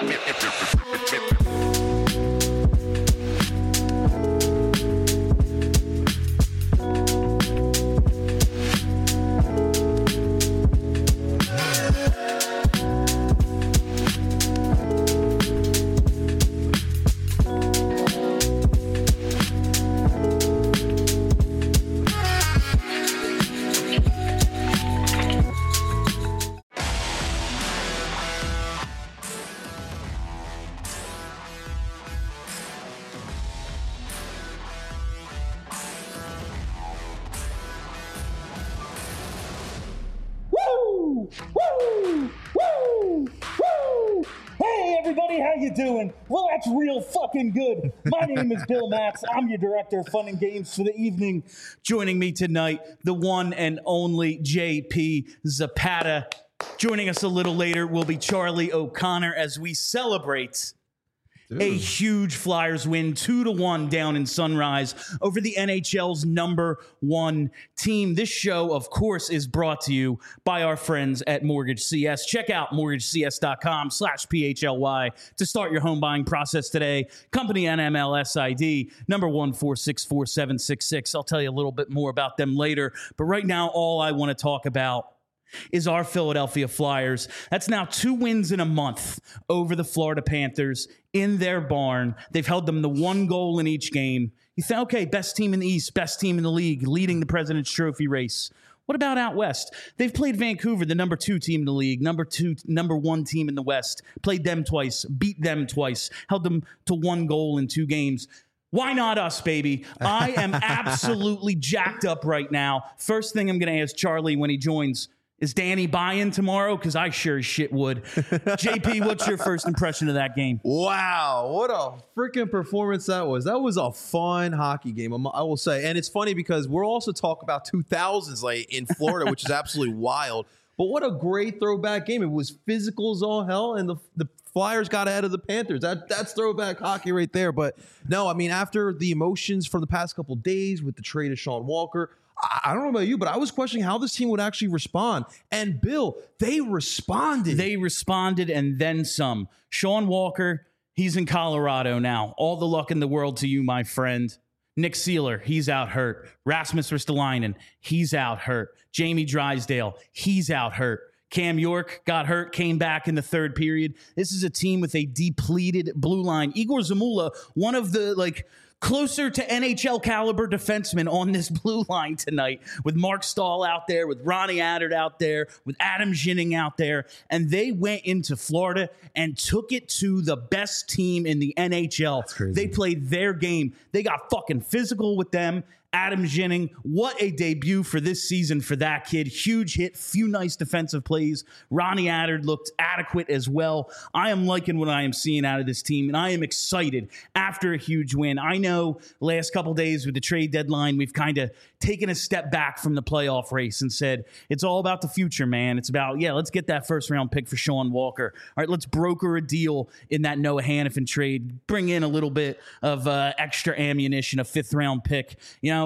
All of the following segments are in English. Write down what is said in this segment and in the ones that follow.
Doing? Well, that's real fucking good. My name is Bill Matz. I'm your director of fun and games for the evening. Joining me tonight, the one and only JP Zapata. Joining us a little later will be Charlie O'Connor as we celebrate a huge Flyers win, 2-1 down in Sunrise over the NHL's #1 team. This show, of course, is brought to you by our friends at Mortgage CS. Check out mortgagecs.com/PHLY to start your home buying process today. Company NMLS ID number 1464766. I'll tell you a little bit more about them later. But right now, all I want to talk about is our Philadelphia Flyers. That's now 2 wins in a month over the Florida Panthers in their barn. They've held them to 1 goal in each game. You think, okay, best team in the East, best team in the league, leading the President's Trophy race. What about out west? They've played Vancouver, the #2 team in the league, #1 team in the West, played them twice, beat them twice, held them to 1 goal in 2 games. Why not us, baby? I am absolutely jacked up right now. First thing I'm going to ask Charlie when he joins, is Danny buying tomorrow? Because I sure as shit would. JP, what's your first impression of that game? Wow, what a freaking performance that was. That was a fun hockey game, I will say. And it's funny because we're also talking about 2000s like in Florida, which is absolutely wild. But what a great throwback game. It was physical as all hell, and the Flyers got ahead of the Panthers. That's throwback hockey right there. But no, I mean, after the emotions from the past couple days with the trade of Sean Walker, I don't know about you, but I was questioning how this team would actually respond. And Bill, they responded. They responded and then some. Sean Walker, he's in Colorado now. All the luck in the world to you, my friend. Nick Seeler, he's out hurt. Rasmus Ristolainen, he's out hurt. Jamie Drysdale, he's out hurt. Cam York got hurt, came back in the third period. This is a team with a depleted blue line. Igor Zamula, one of the closer to NHL caliber defensemen on this blue line tonight, with Mark Stahl out there, with Ronnie Attard out there, with Adam Ginning out there. And they went into Florida and took it to the best team in the NHL. They played their game. They got fucking physical with them. Adam Ginning, what a debut for this season for that kid. Huge hit, few nice defensive plays. Ronnie Attard looked adequate as well. I am liking what I am seeing out of this team, and I am excited after a huge win. I know last couple days with the trade deadline, we've kind of taken a step back from the playoff race and said, it's all about the future, man. It's about, let's get that first-round pick for Sean Walker. All right, let's broker a deal in that Noah Hannafin trade, bring in a little bit of extra ammunition, a 5th-round pick.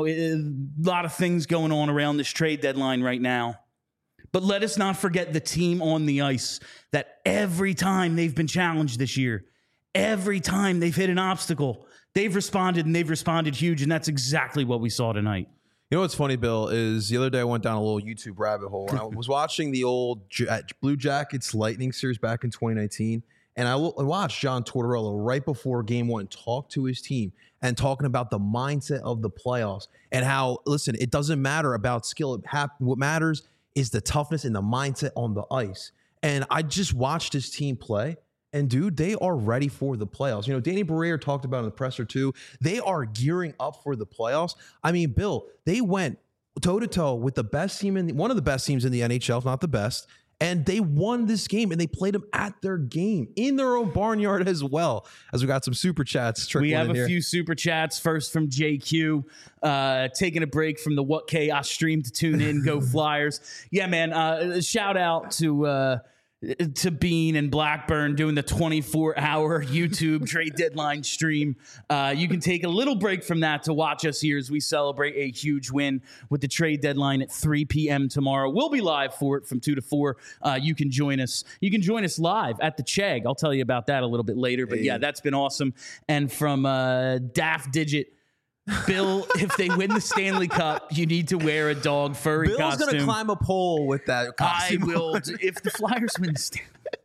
A lot of things going on around this trade deadline right now. But let us not forget the team on the ice that every time they've been challenged this year, every time they've hit an obstacle, they've responded, and they've responded huge, and that's exactly what we saw tonight. You know what's funny, Bill, is the other day I went down a little YouTube rabbit hole, and I was watching the old Blue Jackets Lightning series back in 2019, and I watched John Tortorella right before Game 1 talk to his team and talking about the mindset of the playoffs and how, listen, it doesn't matter about skill. What matters is the toughness and the mindset on the ice. And I just watched his team play, and dude, they are ready for the playoffs. Danny Briere talked about in the presser too. They are gearing up for the playoffs. I mean, Bill, they went toe-to-toe with the best team one of the best teams in the NHL, if not the best. And they won this game, and they played them at their game in their own barnyard as well. As we got some super chats trickling in here. We have a few super chats. First from JQ, taking a break from the What Chaos stream to tune in. Go Flyers. Yeah, man. Shout out to to Bean and Blackburn doing the 24-hour YouTube trade deadline stream. You can take a little break from that to watch us here as we celebrate a huge win with the trade deadline at 3 p.m. tomorrow. We'll be live for it from 2 to 4. You can join us. You can join us live at the Chegg. I'll tell you about that a little bit later. But yeah, that's been awesome. And from Daft Digit, Bill, if they win the Stanley Cup, you need to wear a dog furry Bill's costume. going to climb a pole with that costume. I will. If the Flyers win the Stanley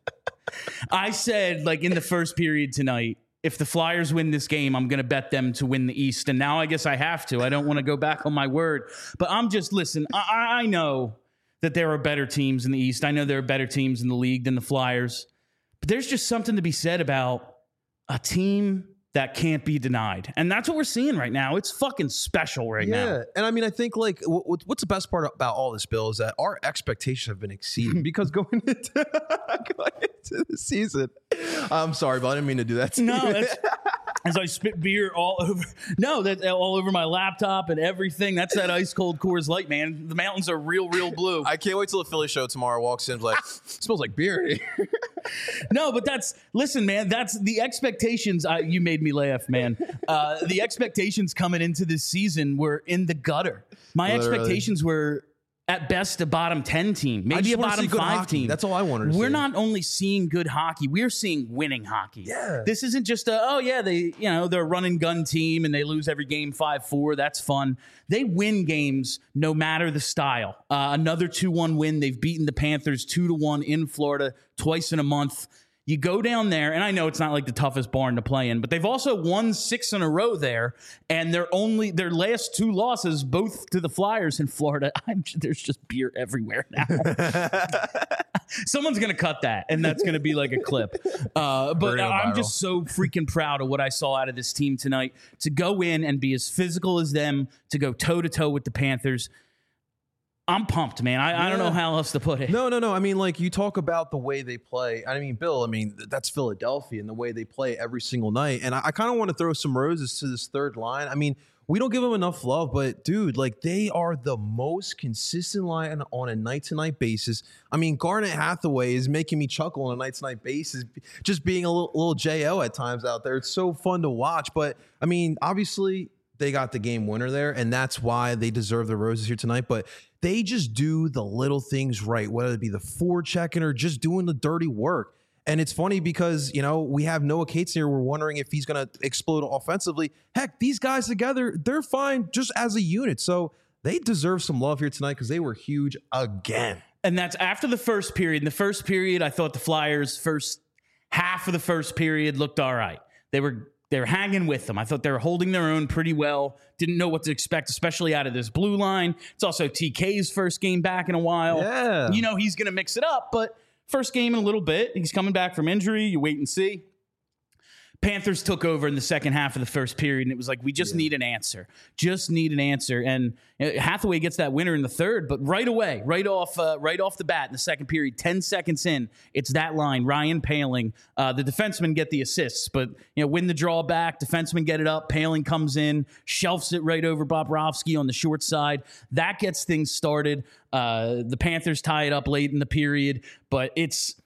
I said, like, in the first period tonight, if the Flyers win this game, I'm going to bet them to win the East. And now I guess I have to. I don't want to go back on my word. But I'm just, listen, I know that there are better teams in the East. I know there are better teams in the league than the Flyers. But there's just something to be said about a team that can't be denied. And that's what we're seeing right now. It's fucking special right now. Yeah. And I mean, I think like what's the best part about all this, Bill, is that our expectations have been exceeded because going into the season, I'm sorry, but I didn't mean to do that to you. No, that's, as I spit beer all over. No, that's all over my laptop and everything. That's that ice cold Coors Light, man. The mountains are real blue. I can't wait till the Philly show tomorrow walks in like, smells like beer. No, but listen, man, that's the expectations. You made me laugh, man. The expectations coming into this season were in the gutter. My expectations were at best a bottom 10 team, maybe a bottom 5 team. That's all I wanted to see. We're not only seeing good hockey, we're seeing winning hockey. Yeah. This isn't just they're a run and gun team and they lose every game 5-4. That's fun. They win games no matter the style. Another 2-1 win. They've beaten the Panthers 2-1 in Florida twice in a month. You go down there, and I know it's not like the toughest barn to play in, but they've also won 6 in a row there, and their last 2 losses, both to the Flyers in Florida. There's just beer everywhere now. Someone's going to cut that, and that's going to be like a clip. But I'm just so freaking proud of what I saw out of this team tonight, to go in and be as physical as them, to go toe-to-toe with the Panthers. I'm pumped, man. I don't know how else to put it. No. I mean, like, you talk about the way they play. I mean, Bill, that's Philadelphia and the way they play every single night. And I kind of want to throw some roses to this third line. I mean, we don't give them enough love, but dude, like, they are the most consistent line on a night-to-night basis. I mean, Garnet Hathaway is making me chuckle on a night-to-night basis, just being a little JO at times out there. It's so fun to watch. But I mean, obviously, they got the game winner there, and that's why they deserve the roses here tonight. But they just do the little things right, whether it be the forechecking or just doing the dirty work. And it's funny because, we have Noah Cates here. We're wondering if he's going to explode offensively. Heck, these guys together, they're fine just as a unit. So they deserve some love here tonight because they were huge again. And that's after the first period. In the first period, I thought the Flyers' first half of the first period looked all right. They were hanging with them. I thought they were holding their own pretty well. Didn't know what to expect, especially out of this blue line. It's also TK's first game back in a while. Yeah. He's going to mix it up, but first game in a little bit. He's coming back from injury. You wait and see. Panthers took over in the second half of the first period, and it was like, we just need an answer. Just need an answer. And Hathaway gets that winner in the third, but right away, right off the bat in the second period, 10 seconds in, it's that line, Ryan Poehling. The defensemen get the assists, but win the draw back, defensemen get it up, Poehling comes in, shelves it right over Bobrovsky on the short side. That gets things started. The Panthers tie it up late in the period, but it's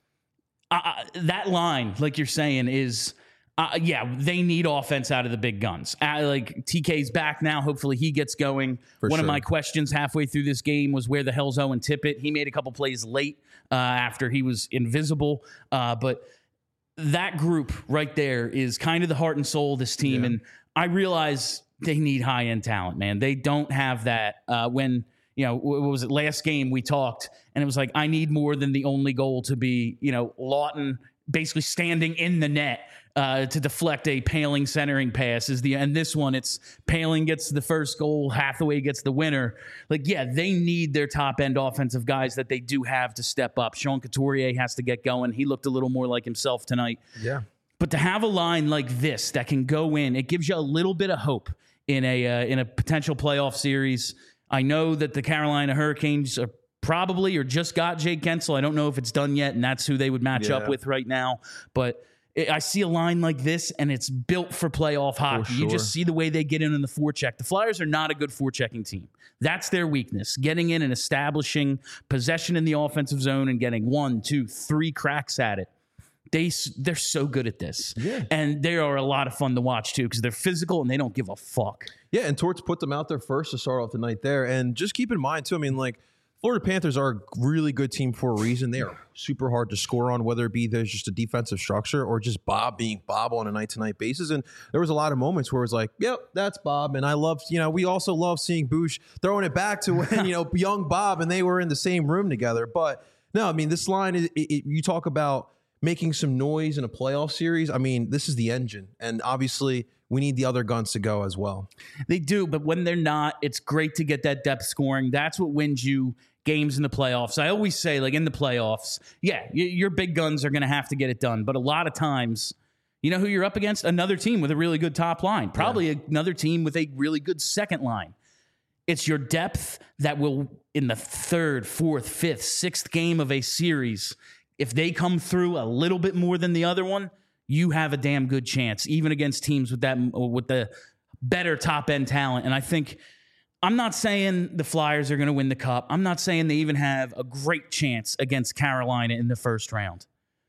that line, like you're saying, is... they need offense out of the big guns. Like, TK's back now. Hopefully he gets going. One of my questions halfway through this game was, where the hell's Owen Tippett? He made a couple plays late after he was invisible. But that group right there is kind of the heart and soul of this team. Yeah. And I realize they need high-end talent, man. They don't have that. When, what was it, last game we talked, and it was like, I need more than the only goal to be, Lawton basically standing in the net to deflect a Poehling centering pass. And this one, it's Poehling gets the first goal, Hathaway gets the winner. Like, yeah, they need their top-end offensive guys that they do have to step up. Sean Couturier has to get going. He looked a little more like himself tonight. Yeah. But to have a line like this that can go in, it gives you a little bit of hope in a potential playoff series. I know that the Carolina Hurricanes are probably or just got Jake Gensel. I don't know if it's done yet, and that's who they would match up with right now. But I see a line like this, and it's built for playoff hockey. You just see the way they get in the forecheck. The Flyers are not a good forechecking team. That's their weakness, getting in and establishing possession in the offensive zone and getting 1, 2, 3 cracks at it. They're so good at this. Yeah. And they are a lot of fun to watch, too, because they're physical and they don't give a fuck. Yeah, and Torts put them out there first to start off the night there. And just keep in mind, too, I mean, like, Florida Panthers are a really good team for a reason. They are super hard to score on, whether it be there's just a defensive structure or just Bob being Bob on a night-to-night basis. And there was a lot of moments where it was like, yep, that's Bob. And I loved, we also love seeing Bush throwing it back to when, young Bob and they were in the same room together. But no, I mean, this line, you talk about making some noise in a playoff series. I mean, this is the engine. And obviously, we need the other guns to go as well. They do, but when they're not, it's great to get that depth scoring. That's what wins you games in the playoffs. I always say, like, in the playoffs, yeah, your big guns are going to have to get it done. But a lot of times, you know who you're up against? Another team with a really good top line. Probably another team with a really good second line. It's your depth that will, in the 3rd, 4th, 5th, 6th game of a series, if they come through a little bit more than the other one, you have a damn good chance, even against teams with the better top-end talent. And I think, I'm not saying the Flyers are going to win the Cup. I'm not saying they even have a great chance against Carolina in the first round.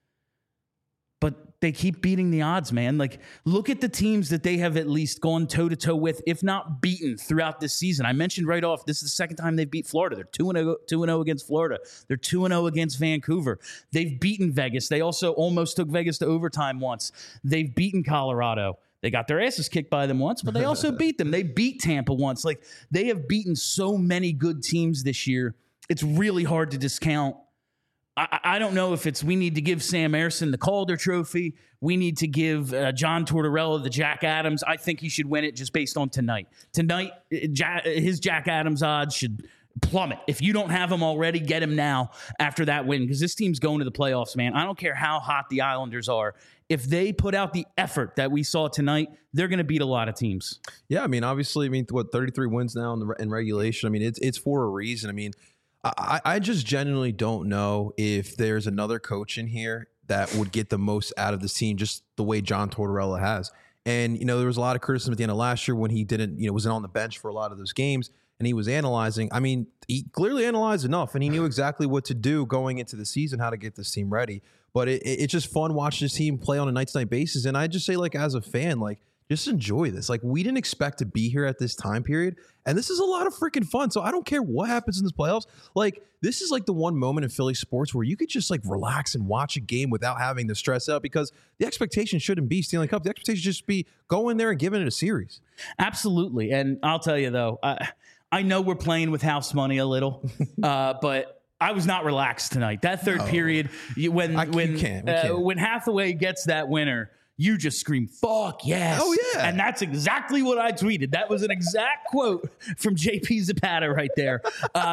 But they keep beating the odds, man. Like, look at the teams that they have at least gone toe-to-toe with, if not beaten, throughout this season. I mentioned right off, this is the second time they've beat Florida. They're 2-0 against Florida. They're 2-0 against Vancouver. They've beaten Vegas. They also almost took Vegas to overtime once. They've beaten Colorado. They got their asses kicked by them once, but they also beat them. They beat Tampa once. Like, they have beaten so many good teams this year. It's really hard to discount. I don't know if it's we need to give Sam Ersson the Calder Trophy. We need to give John Tortorella the Jack Adams. I think he should win it just based on tonight. Tonight, his Jack Adams odds should plummet. If you don't have him already, get him now after that win, because this team's going to the playoffs, man. I don't care how hot the Islanders are. If they put out the effort that we saw tonight, they're going to beat a lot of teams. Yeah, I mean, obviously, 33 wins now in regulation. I mean, it's for a reason. I mean, I just genuinely don't know if there's another coach in here that would get the most out of this team, just the way John Tortorella has. And, there was a lot of criticism at the end of last year when he didn't, wasn't on the bench for a lot of those games and he was analyzing. I mean, he clearly analyzed enough and he knew exactly what to do going into the season, how to get this team ready. But it's just fun watching this team play on a night-to-night basis. And I just say, like, as a fan, like, just enjoy this. Like, we didn't expect to be here at this time period. And this is a lot of freaking fun. So I don't care what happens in this playoffs. Like, this is like the one moment in Philly sports where you could just like relax and watch a game without having to stress out, because the expectation shouldn't be Stanley Cup. The expectation should just be going there and giving it a series. Absolutely. And I'll tell you, though, I know we're playing with house money a little, but I was not relaxed tonight. That third period, when Hathaway gets that winner, you just scream, fuck yes. Oh, yeah. And that's exactly what I tweeted. That was an exact quote from JP Zapata right there.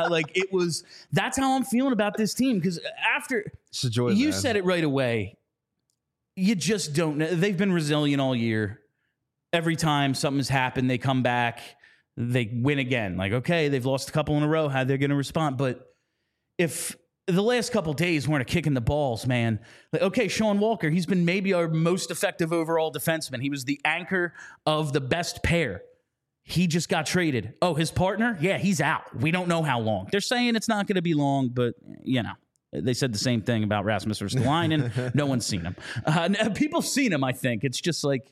That's how I'm feeling about this team. Because after you said it right away, you just don't know. They've been resilient all year. Every time something's happened, they come back, they win again. Like, okay, they've lost a couple in a row. How they're going to respond? But if the last couple days weren't a kick in the balls, man. Like, okay, Sean Walker, he's been maybe our most effective overall defenseman. He was the anchor of the best pair. He just got traded. Oh, his partner? Yeah, he's out. We don't know how long. They're saying it's not going to be long, but, they said the same thing about Rasmus Ristolainen. No one's seen him. People seen him, I think. It's just like,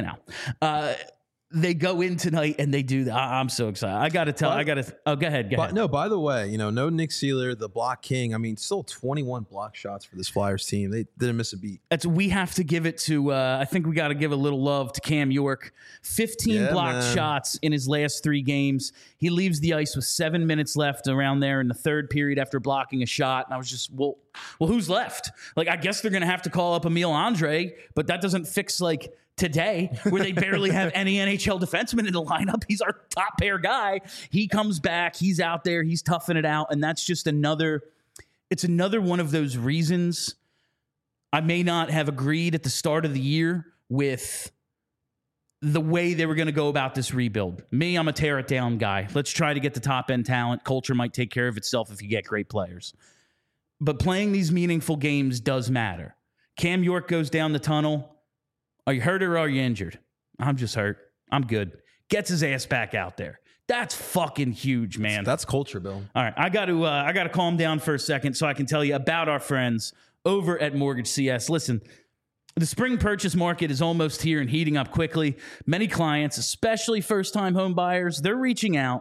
they go in tonight and they do that. I'm so excited. Go ahead. No, by the way, no Nick Seeler, the block king. I mean, still 21 block shots for this Flyers team. They didn't miss a beat. We have to give it to, I think we got to give a little love to Cam York. 15 blocked shots in his last 3 games. He leaves the ice with 7 minutes left around there in the third period after blocking a shot. And I was just, well, who's left? Like, I guess they're going to have to call up Emil Andre, but that doesn't fix, like, today, where they barely have any NHL defenseman in the lineup. He's our top pair guy. He comes back. He's out there. He's toughing it out. And that's just another one of those reasons I may not have agreed at the start of the year with the way they were going to go about this rebuild. Me, I'm a tear it down guy. Let's try to get the top end talent. Culture might take care of itself if you get great players. But playing these meaningful games does matter. Cam York goes down the tunnel. Are you hurt or are you injured? I'm just hurt. I'm good. Gets his ass back out there. That's fucking huge, man. That's culture, Bill. All right, I got to calm down for a second so I can tell you about our friends over at Mortgage CS. Listen, the spring purchase market is almost here and heating up quickly. Many clients, especially first-time home buyers, they're reaching out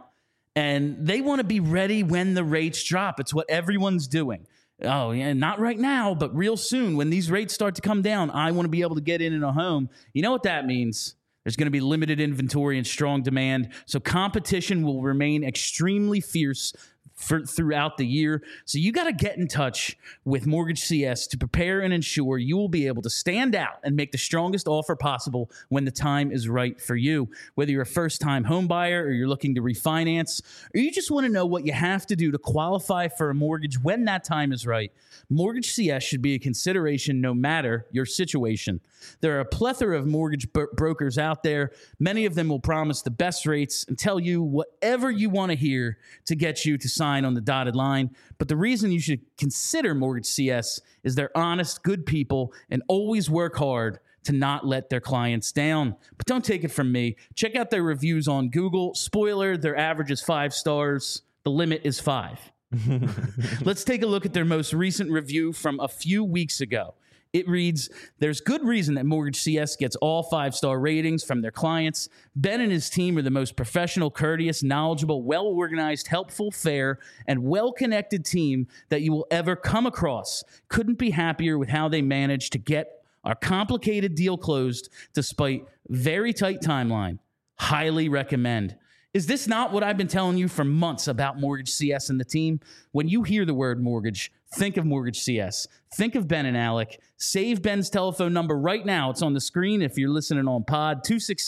and they want to be ready when the rates drop. It's what everyone's doing. Oh, yeah, not right now, but real soon when these rates start to come down, I want to be able to get in a home. You know what that means? There's going to be limited inventory and strong demand, so competition will remain extremely fierce throughout the year. So you got to get in touch with Mortgage CS to prepare and ensure you will be able to stand out and make the strongest offer possible when the time is right for you. Whether you're a first-time home buyer or you're looking to refinance, or you just want to know what you have to do to qualify for a mortgage when that time is right, Mortgage CS should be a consideration no matter your situation. There are a plethora of mortgage brokers out there. Many of them will promise the best rates and tell you whatever you want to hear to get you to sign on the dotted line. But the reason you should consider Mortgage CS is they're honest, good people and always work hard to not let their clients down. But don't take it from me. Check out their reviews on Google. Spoiler, their average is 5 stars. The limit is 5. Let's take a look at their most recent review from a few weeks ago. It reads, there's good reason that Mortgage CS gets all 5-star ratings from their clients. Ben and his team are the most professional, courteous, knowledgeable, well-organized, helpful, fair, and well-connected team that you will ever come across. Couldn't be happier with how they managed to get our complicated deal closed despite very tight timeline. Highly recommend. Is this not what I've been telling you for months about Mortgage CS and the team? When you hear the word mortgage, think of Mortgage CS. Think of Ben and Alec. Save Ben's telephone number right now. It's on the screen if you're listening on pod,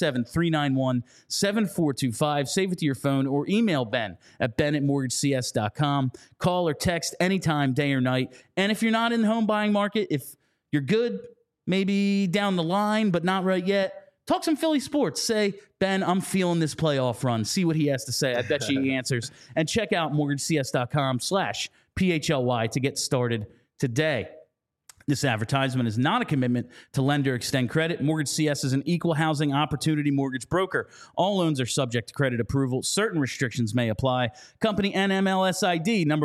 267-391-7425. Save it to your phone or email Ben at ben@mortgagecs.com. Call or text anytime, day or night. And if you're not in the home buying market, if you're good, maybe down the line, but not right yet, talk some Philly sports. Say, Ben, I'm feeling this playoff run. See what he has to say. I bet you he answers. And check out mortgagecs.com/PHLY to get started today. This advertisement is not a commitment to lend or extend credit. Mortgage CS is an equal housing opportunity mortgage broker. All loans are subject to credit approval. Certain restrictions may apply. Company NMLS ID number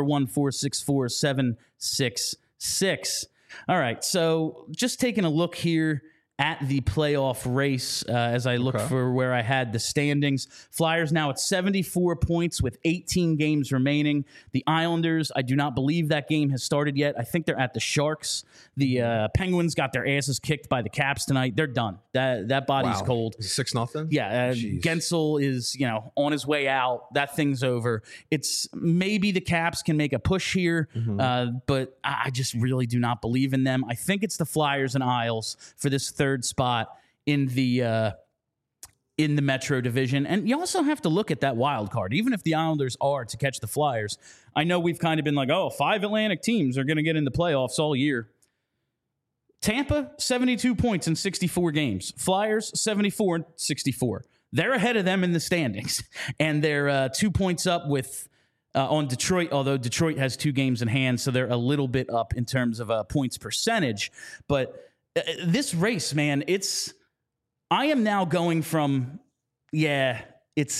1464766. All right, so just taking a look here at the playoff race as I look for where I had the standings. Flyers now at 74 points with 18 games remaining. The Islanders, I do not believe that game has started yet. I think they're at the Sharks. The Penguins got their asses kicked by the Caps tonight. They're done. That body's cold. 6-0? Yeah, Gensel is, on his way out. That thing's over. It's maybe the Caps can make a push here, but I just really do not believe in them. I think it's the Flyers and Isles for this third spot in the Metro Division. And you also have to look at that wild card. Even if the Islanders are to catch the Flyers, I know we've kind of been like, 5 Atlantic teams are going to get in the playoffs all year. Tampa, 72 points in 64 games. Flyers, 74 and 64. They're ahead of them in the standings. And they're 2 points up with on Detroit, although Detroit has 2 games in hand, so they're a little bit up in terms of points percentage. But this race, man, I am now going from, it's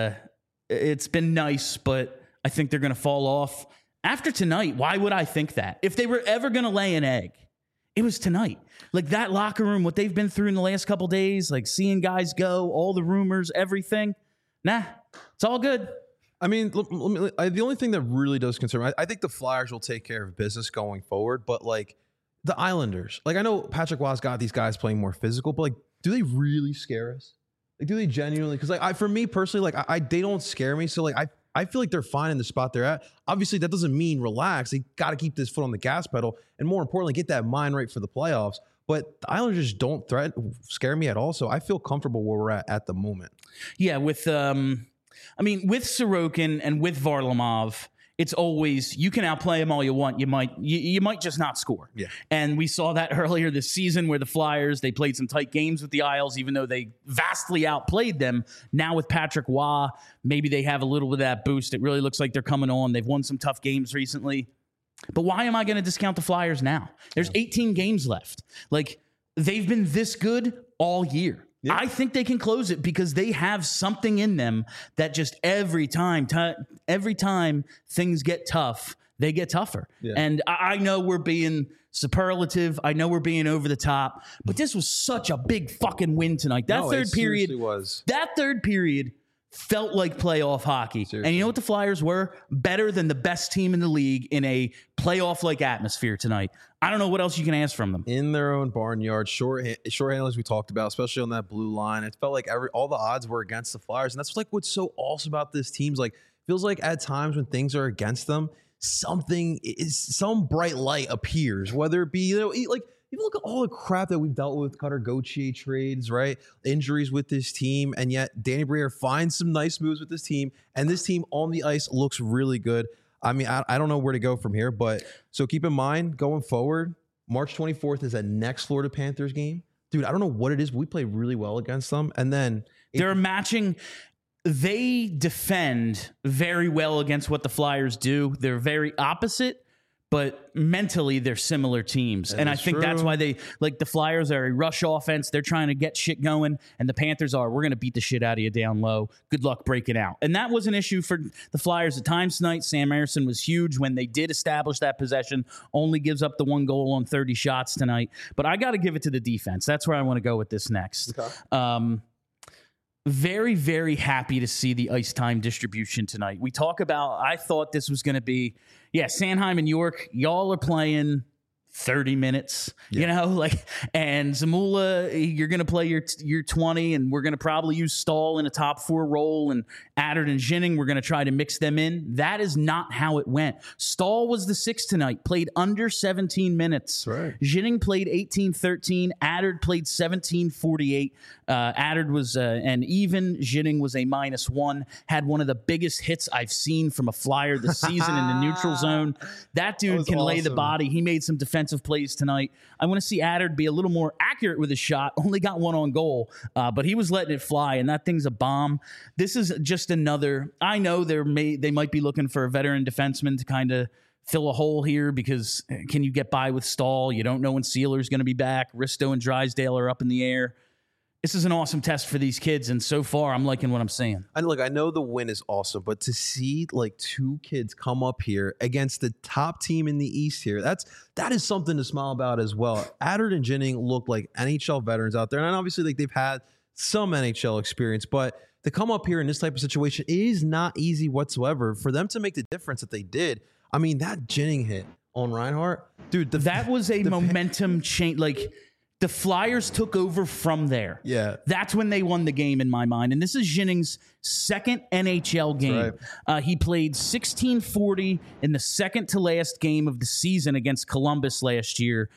been nice, but I think they're going to fall off. After tonight, why would I think that? If they were ever going to lay an egg, it was tonight. Like that locker room, what they've been through in the last couple days, like seeing guys go, all the rumors, everything. Nah, it's all good. I mean, the only thing that really does concern me, I think the Flyers will take care of business going forward, but like the Islanders, like I know Patrick Waugh's got these guys playing more physical, but like, do they really scare us? Like, do they genuinely? Because like, for me personally, like they don't scare me. So like, I feel like they're fine in the spot they're at. Obviously, that doesn't mean relax. They got to keep this foot on the gas pedal, and more importantly, get that mind right for the playoffs. But the Islanders just don't scare me at all. So I feel comfortable where we're at the moment. Yeah, with with Sorokin and with Varlamov, it's always, you can outplay them all you want. You might just not score. Yeah. And we saw that earlier this season where the Flyers, they played some tight games with the Isles, even though they vastly outplayed them. Now with Patrick Waugh, maybe they have a little bit of that boost. It really looks like they're coming on. They've won some tough games recently. But why am I going to discount the Flyers now? There's 18 games left. Like, they've been this good all year. Yeah. I think they can close it because they have something in them that just every time things get tough, they get tougher. Yeah. And I know we're being superlative. I know we're being over the top, but this was such a big fucking win tonight. That third period felt like playoff hockey. Seriously. And you know what the Flyers were? Better than the best team in the league in a playoff-like atmosphere tonight. I don't know what else you can ask from them. In their own barnyard, short handlers we talked about, especially on that blue line. It felt like all the odds were against the Flyers. And that's like what's so awesome about this team. Like, feels like at times when things are against them, some bright light appears, whether it be, like, even look at all the crap that we've dealt with, Cutter Gauthier trades, right? Injuries with this team, and yet Danny Briere finds some nice moves with this team, and this team on the ice looks really good. I mean, I don't know where to go from here, but so keep in mind, going forward, March 24th is that next Florida Panthers game. Dude, I don't know what it is, but we play really well against them, and then they're matching. They defend very well against what the Flyers do. They're very opposite, but mentally they're similar teams. And I think that's why they, like, the Flyers are a rush offense. They're trying to get shit going. And the Panthers are, we're going to beat the shit out of you down low. Good luck breaking out. And that was an issue for the Flyers at times tonight. Sam Emerson was huge when they did establish that possession. Only gives up the 1 goal on 30 shots tonight. But I got to give it to the defense. That's where I want to go with this next. Okay. Very, very happy to see the ice time distribution tonight. We talk about, I thought this was going to be, Sanheim and York, y'all are playing 30 minutes, and Zamula, you're going to play your 20, and we're going to probably use Stahl in a top 4 role, and Adder and Ginning, we're going to try to mix them in. That is not how it went. Stahl was the 6 tonight, played under 17 minutes. Right. Ginning played 18-13. Adder played 17-48. Adder was an even. Ginning was a -1. Had one of the biggest hits I've seen from a Flyer this season in the neutral zone. That dude can lay the body. He made some defensive plays tonight. I want to see Adder be a little more accurate with his shot. Only got 1 on goal, but he was letting it fly, and that thing's a bomb. This is just another. I know they might be looking for a veteran defenseman to kind of fill a hole here because can you get by with Stahl? You don't know when Sealer's going to be back. Risto and Drysdale are up in the air. This is an awesome test for these kids, and so far, I'm liking what I'm seeing. And look, I know the win is awesome, but to see like 2 kids come up here against the top team in the East here, that is something to smile about as well. Adder and Ginning look like NHL veterans out there, and obviously like they've had some NHL experience, but to come up here in this type of situation, it is not easy whatsoever. For them to make the difference that they did, I mean, that Ginning hit on Reinhart, dude, that was a momentum change. Like, the Flyers took over from there. Yeah. That's when they won the game in my mind. And this is Ginning's second NHL game. Right. He played 16-40 in the second to last game of the season against Columbus last year.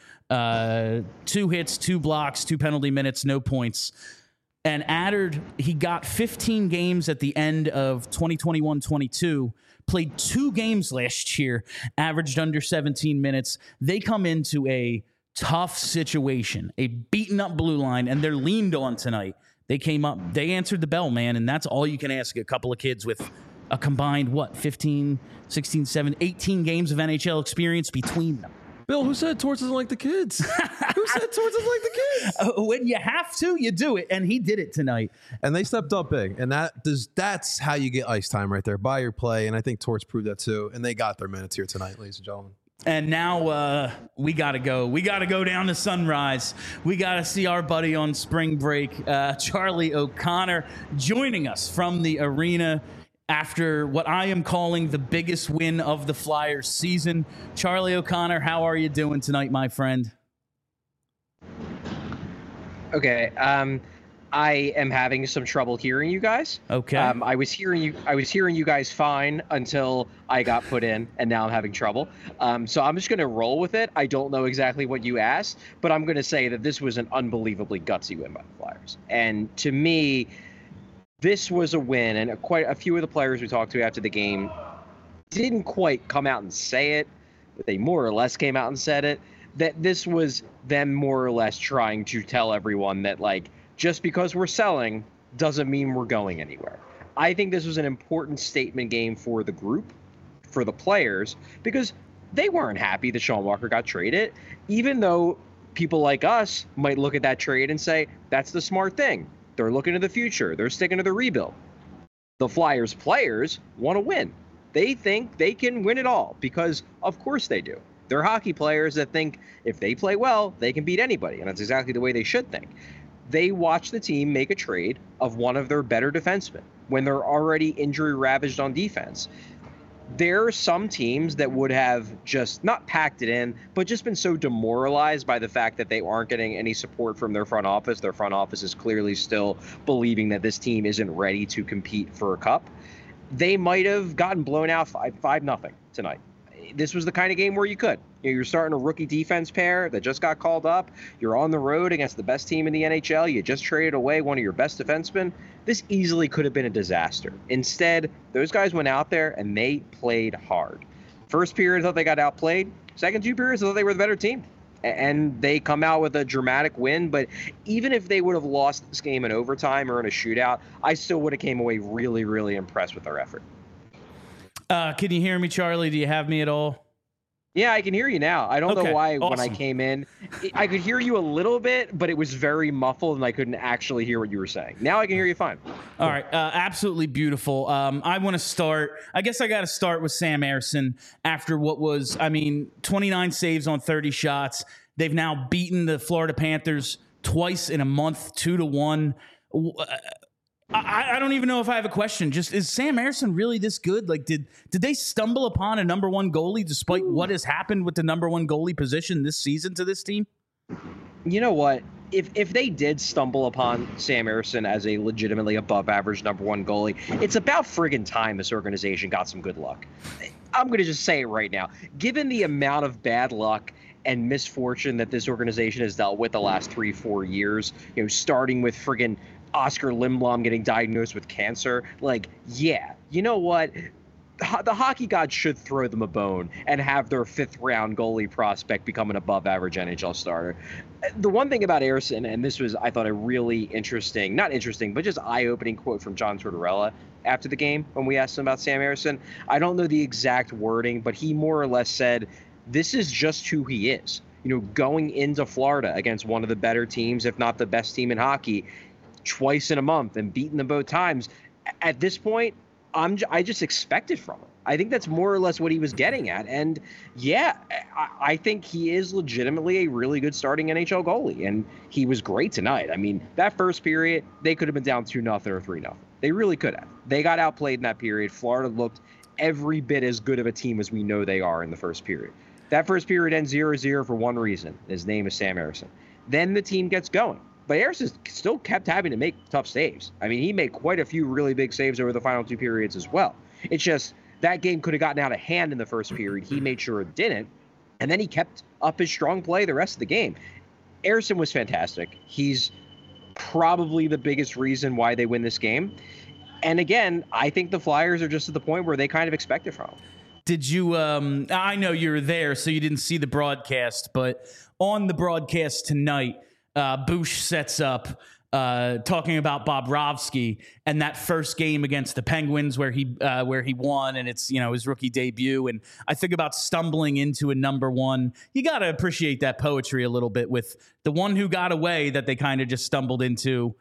2 hits, 2 blocks, 2 penalty minutes, no points. And Adder, he got 15 games at the end of 2021-22, played 2 games last year, averaged under 17 minutes. They come into a tough situation, a beaten up blue line, and they're leaned on tonight. They came up, they answered the bell, man, and that's all you can ask a couple of kids with a combined, 15, 16, 17, 18 games of NHL experience between them. Bill, who said Torts doesn't like the kids? Who said Torts doesn't like the kids? When you have to, you do it, and he did it tonight. And they stepped up big, and that's how you get ice time right there, by your play, and I think Torts proved that too, and they got their minutes here tonight, ladies and gentlemen. And now we got to go. We got to go down to Sunrise. We got to see our buddy on spring break, Charlie O'Connor, joining us from the arena after what I am calling the biggest win of the Flyers season. Charlie O'Connor, how are you doing tonight, my friend? Okay. I am having some trouble hearing you guys. Okay. I was hearing you guys fine until I got put in, and now I'm having trouble. So I'm just going to roll with it. I don't know exactly what you asked, but I'm going to say that this was an unbelievably gutsy win by the Flyers. And to me, this was a win, and quite a few of the players we talked to after the game didn't quite come out and say it, but they more or less came out and said it, that this was them more or less trying to tell everyone that, like, just because we're selling doesn't mean we're going anywhere. I think this was an important statement game for the group, for the players, because They weren't happy that Sean Walker got traded, even though people like us might look at that trade and say, that's the smart thing. They're looking to the future. They're sticking to the rebuild. The Flyers players want to win. They think they can win it all because, of course, they do. They're hockey players that think if they play well, they can beat anybody. And that's exactly the way they should think. They watch the team make a trade of one of their better defensemen when they're already injury ravaged on defense. There are some teams that would have just not packed it in, but just been so demoralized by the fact that they aren't getting any support from their front office. Their front office is clearly still believing that this team isn't ready to compete for a cup. They might have gotten blown out 5-0 tonight. This was the kind of game where you could. You're starting a rookie defense pair that just got called up. You're on the road against the best team in the NHL. You just traded away one of your best defensemen. This easily could have been a disaster. Instead, those guys went out there and they played hard. First period, I thought they got outplayed. Second 2 periods, I thought they were the better team. And they come out with a dramatic win. But even if they would have lost this game in overtime or in a shootout, I still would have came away really, really impressed with their effort. Can you hear me, Charlie? Do you have me at all? Yeah, I can hear you now. I don't know why awesome. When I came in, I could hear you a little bit, but it was very muffled and I couldn't actually hear what you were saying. Now I can hear you fine. All right. Absolutely beautiful. I want to start. I guess I got to start with Sam Ersson after what was, 29 saves on 30 shots. They've now beaten the Florida Panthers twice in a month, 2-1. I don't even know if I have a question. Just, is Sam Ersson really this good? Like, did they stumble upon a number one goalie despite what has happened with the number one goalie position this season to this team? You know what? If they did stumble upon Sam Ersson as a legitimately above average number one goalie, it's about friggin' time this organization got some good luck. I'm going to just say it right now. Given the amount of bad luck and misfortune that this organization has dealt with the last 3-4 years, starting with friggin' Oscar Lindblom getting diagnosed with cancer. Like, yeah, you know what? The hockey gods should throw them a bone and have their 5th round goalie prospect become an above average NHL starter. The one thing about Ersson, and this was, I thought, a really interesting, not interesting, but just eye-opening quote from John Tortorella after the game when we asked him about Sam Ersson. I don't know the exact wording, but he more or less said, this is just who he is. Going into Florida against one of the better teams, if not the best team in hockey, twice in a month and beating them both times. At this point, I just expect it from him. I think that's more or less what he was getting at. And yeah, I think he is legitimately a really good starting NHL goalie. And he was great tonight. That first period, they could have been down 2-0 or 3-0. They really could have. They got outplayed in that period. Florida looked every bit as good of a team as we know they are in the first period. That first period ends 0-0 for one reason. His name is Sam Ersson. Then the team gets going. But Ersson still kept having to make tough saves. He made quite a few really big saves over the final 2 periods as well. It's just that game could have gotten out of hand in the first period. He made sure it didn't. And then he kept up his strong play the rest of the game. Ersson was fantastic. He's probably the biggest reason why they win this game. And again, I think the Flyers are just at the point where they kind of expect it from him. Did you, I know you were there, so you didn't see the broadcast, but on the broadcast tonight, Bush sets up talking about Bobrovsky and that first game against the Penguins where he won, and it's his rookie debut. And I think about stumbling into a number one. You got to appreciate that poetry a little bit with the one who got away that they kind of just stumbled into.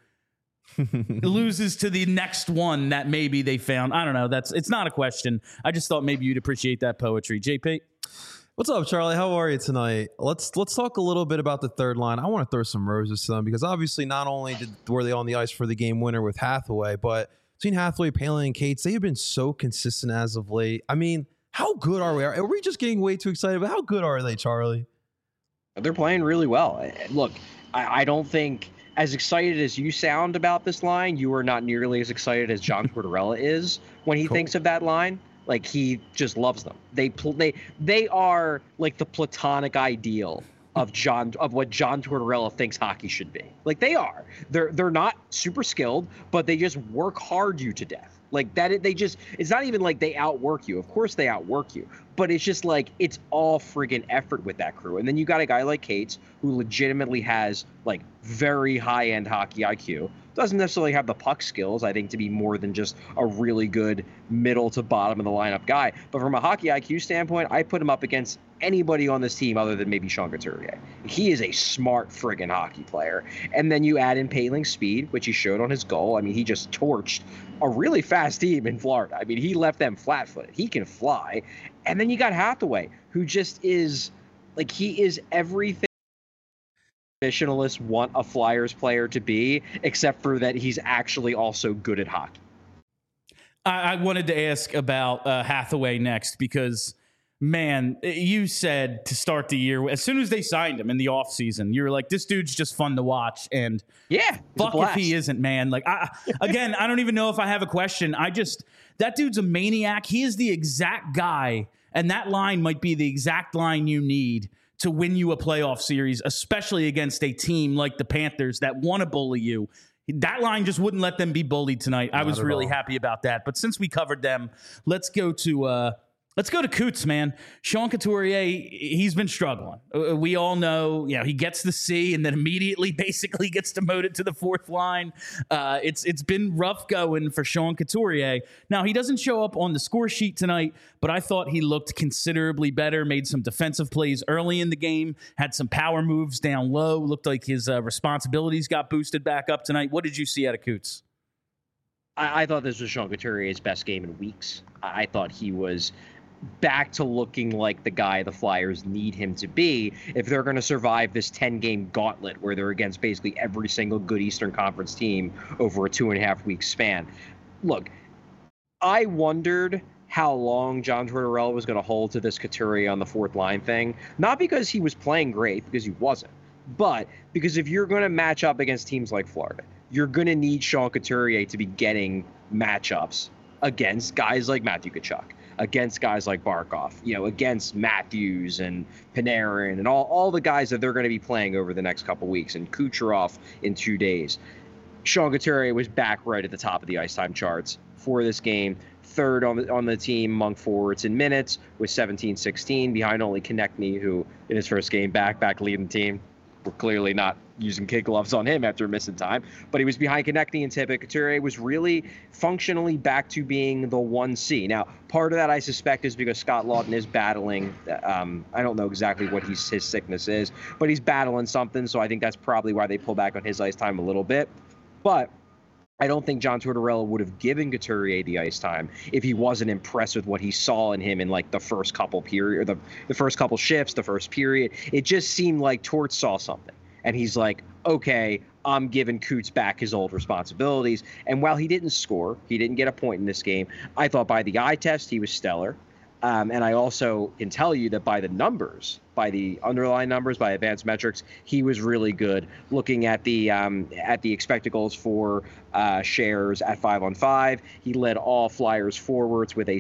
Loses to the next one that maybe they found. I don't know. It's not a question. I just thought maybe you'd appreciate that poetry. JP. What's up, Charlie? How are you tonight? Let's talk a little bit about the third line. I want to throw some roses to them because obviously not only were they on the ice for the game winner with Hathaway, but between Hathaway, Palin, and Cates, they have been so consistent as of late. How good are we? Are we just getting way too excited? But how good are they, Charlie? They're playing really well. Look, I don't think, as excited as you sound about this line, you are not nearly as excited as John Tortorella is when he thinks of that line. Like, he just loves them. They are like the platonic ideal of what John Tortorella thinks hockey should be. Like, they are. They're not super skilled, but they just work hard you to death. Like that, it's not even like they outwork you. Of course they outwork you, but it's just like, it's all friggin' effort with that crew. And then you got a guy like Cates who legitimately has like very high-end hockey IQ, Doesn't necessarily have the puck skills, I think, to be more than just a really good middle to bottom of the lineup guy. But from a hockey IQ standpoint, I put him up against anybody on this team other than maybe Sean Couturier. He is a smart friggin' hockey player. And then you add in Poehling's speed, which he showed on his goal. I mean, he just torched a really fast team in Florida. I mean, he left them flat-footed. He can fly. And then you got Hathaway, who just is, like, he is everything traditionalists want a Flyers player to be, except for that he's actually also good at hockey. I wanted to ask about Hathaway next because, man, you said to start the year, as soon as they signed him in the offseason, you were like, this dude's just fun to watch. And yeah, fuck if he isn't, man. Like, again, I don't even know if I have a question. That dude's a maniac. He is the exact guy, and that line might be the exact line you need to win you a playoff series, especially against a team like the Panthers that want to bully you. That line just wouldn't let them be bullied tonight. I was really happy about that. But since we covered them, let's go to Coots, man. Sean Couturier, he's been struggling. We all know, he gets the C and then immediately basically gets demoted to the fourth line. It's been rough going for Sean Couturier. Now, he doesn't show up on the score sheet tonight, but I thought he looked considerably better, made some defensive plays early in the game, had some power moves down low, looked like his responsibilities got boosted back up tonight. What did you see out of Coots? I thought this was Sean Couturier's best game in weeks. I thought he was back to looking like the guy the Flyers need him to be if they're going to survive this 10-game gauntlet where they're against basically every single good Eastern Conference team over a 2.5-week span. Look, I wondered how long John Tortorella was going to hold to this Couturier on the fourth line thing, not because he was playing great, because he wasn't, but because if you're going to match up against teams like Florida, you're going to need Sean Couturier to be getting matchups against guys like Matthew Tkachuk, against guys like Barkov, against Matthews and Panarin and all the guys that they're going to be playing over the next couple weeks, and Kucherov in 2 days. Sean Couturier was back right at the top of the ice time charts for this game, third on the team among forwards in minutes with 17-16, behind only Konechny, who in his first game back leading the team. We're clearly not using kid gloves on him after missing time, but he was behind Konechny and Tippett. Couturier was really functionally back to being the 1C. Now, part of that I suspect is because Scott Laughton is battling. I don't know exactly what his sickness is, but he's battling something. So I think that's probably why they pull back on his ice time a little bit. But I don't think John Tortorella would have given Couturier the ice time if he wasn't impressed with what he saw in him in like the first couple period, or the first couple shifts, the first period. It just seemed like Tort saw something, and he's like, okay, I'm giving Coots back his old responsibilities. And while he didn't score, he didn't get a point in this game, I thought by the eye test he was stellar. And I also can tell you that by the numbers, by the underlying numbers, by advanced metrics, he was really good. Looking at the expected goals for shares at 5-on-5, he led all Flyers forwards with a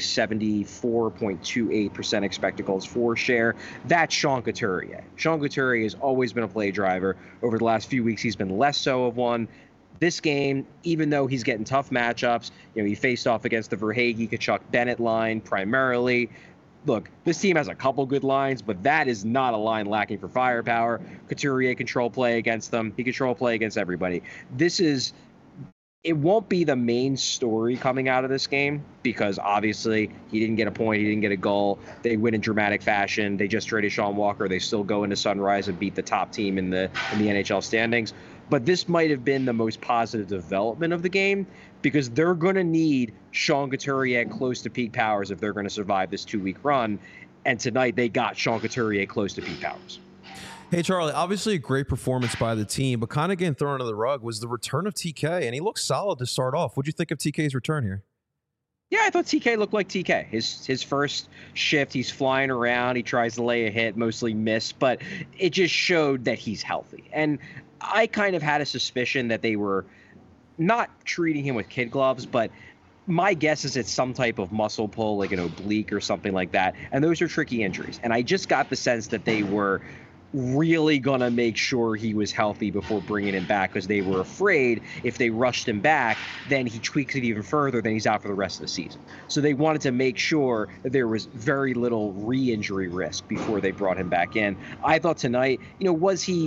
74.28% expected goals for share. That's Sean Couturier. Sean Couturier has always been a play driver. Over the last few weeks, he's been less so of one. This game, even though he's getting tough matchups, he faced off against the Verhaeghe, Tkachuk, Bennett line primarily. Look, this team has a couple good lines, but that is not a line lacking for firepower. Couturier control play against them. He control play against everybody. It won't be the main story coming out of this game because obviously he didn't get a point, he didn't get a goal. They win in dramatic fashion. They just traded Sean Walker. They still go into Sunrise and beat the top team in the NHL standings. But this might have been the most positive development of the game because they're going to need Sean Couturier close to peak powers if they're going to survive this 2-week run. And tonight they got Sean Couturier close to peak powers. Hey, Charlie, obviously a great performance by the team, but kind of getting thrown under the rug was the return of TK, and he looked solid to start off. What'd you think of TK's return here? Yeah, I thought TK looked like TK. His first shift, he's flying around. He tries to lay a hit, mostly missed, but it just showed that he's healthy. And I kind of had a suspicion that they were not treating him with kid gloves, but my guess is it's some type of muscle pull, like an oblique or something like that. And those are tricky injuries. And I just got the sense that they were really going to make sure he was healthy before bringing him back because they were afraid if they rushed him back, then he tweaks it even further, then he's out for the rest of the season. So they wanted to make sure that there was very little re-injury risk before they brought him back in. I thought tonight, was he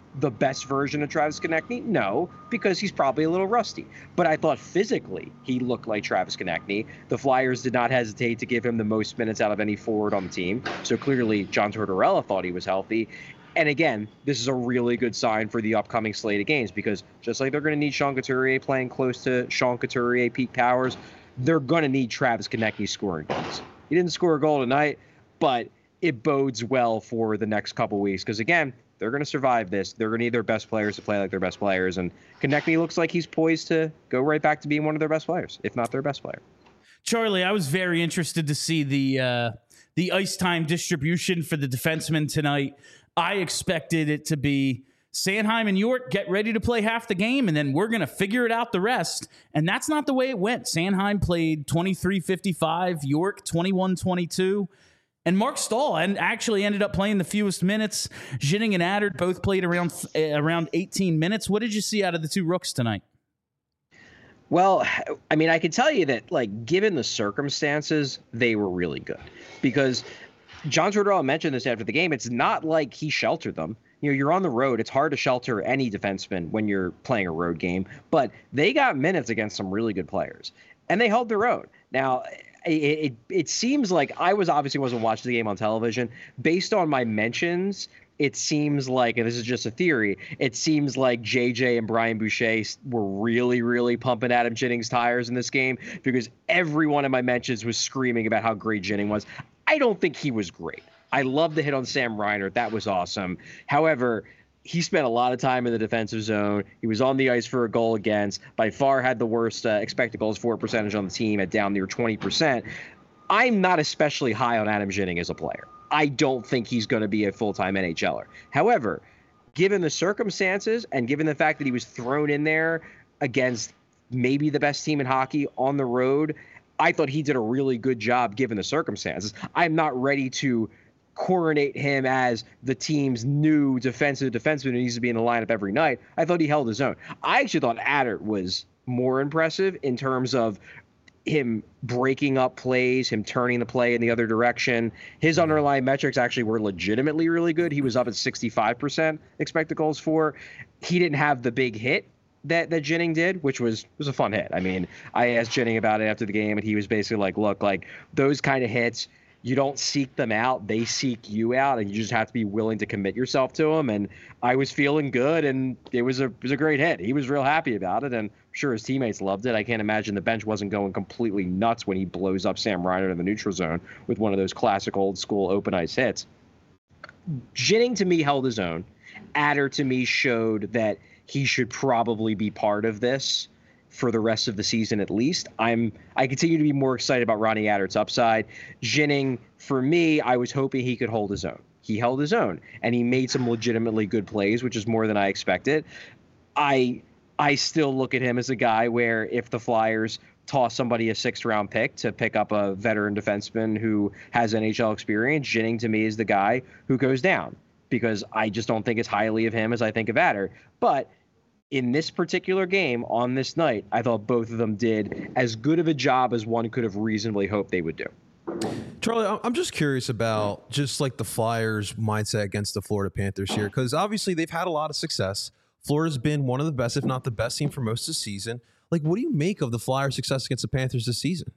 the best version of Travis Konechny? No, because he's probably a little rusty. But I thought physically he looked like Travis Konechny. The Flyers did not hesitate to give him the most minutes out of any forward on the team. So clearly John Tortorella thought he was healthy. And again, this is a really good sign for the upcoming slate of games, because just like they're going to need Sean Couturier playing close to Sean Couturier, Pete Powers, they're going to need Travis Konechny scoring goals. He didn't score a goal tonight, but it bodes well for the next couple weeks, because again, they're going to survive this. They're going to need their best players to play like their best players. And Konechny looks like he's poised to go right back to being one of their best players, if not their best player. Charlie, I was very interested to see the ice time distribution for the defensemen tonight. I expected it to be Sanheim and York get ready to play half the game, and then we're going to figure it out the rest. And that's not the way it went. Sanheim played 23-55, York 21-22. And Mark Stahl actually ended up playing the fewest minutes. Ginning and Adder both played around 18 minutes. What did you see out of the two Rooks tonight? Well, I mean, I can tell you that, like, given the circumstances, they were really good. Because John Tortorella mentioned this after the game. It's not like he sheltered them. You know, you're on the road. It's hard to shelter any defenseman when you're playing a road game. But they got minutes against some really good players. And they held their own. Now, it seems like I wasn't watching the game on television. Based on my mentions, it seems like, and this is just a theory, it seems like JJ and Brian Boucher were really, really pumping Adam Jennings' tires in this game, because every one of my mentions was screaming about how great Jennings was. I don't think he was great. I love the hit on Sam Reinert. That was awesome. However, he spent a lot of time in the defensive zone. He was on the ice for a goal against. By far had the worst expected goals for percentage on the team at down near 20%. I'm not especially high on Adam Ginning as a player. I don't think he's going to be a full-time NHLer. However, given the circumstances and given the fact that he was thrown in there against maybe the best team in hockey on the road, I thought he did a really good job given the circumstances. I'm not ready to coronate him as the team's new defenseman who needs to be in the lineup every night. I thought he held his own. I actually thought Adder was more impressive in terms of him breaking up plays, him turning the play in the other direction. His underlying metrics actually were legitimately really good. He was up at 65% expected goals for. He didn't have the big hit that Jennings did, which was a fun hit. I mean, I asked Jennings about it after the game, and he was basically like, look, like those kind of hits, you don't seek them out, they seek you out, and you just have to be willing to commit yourself to them. And I was feeling good, and it was a great hit. He was real happy about it, and I'm sure his teammates loved it. I can't imagine the bench wasn't going completely nuts when he blows up Sam Reinert in the neutral zone with one of those classic old school open ice hits. Jennings to me held his own. Adder to me showed that he should probably be part of this for the rest of the season at least. I continue to be more excited about Ronnie Adder's upside. Jennings, for me, I was hoping he could hold his own. He held his own, and he made some legitimately good plays, which is more than I expected. I still look at him as a guy where if the Flyers toss somebody a 6th-round pick to pick up a veteran defenseman who has NHL experience, Jennings to me is the guy who goes down, because I just don't think as highly of him as I think of Adder. But in this particular game on this night, I thought both of them did as good of a job as one could have reasonably hoped they would do. Charlie, I'm just curious about just like the Flyers' mindset against the Florida Panthers here, because obviously they've had a lot of success. Florida's been one of the best, if not the best team for most of the season. Like, what do you make of the Flyers' success against the Panthers this season?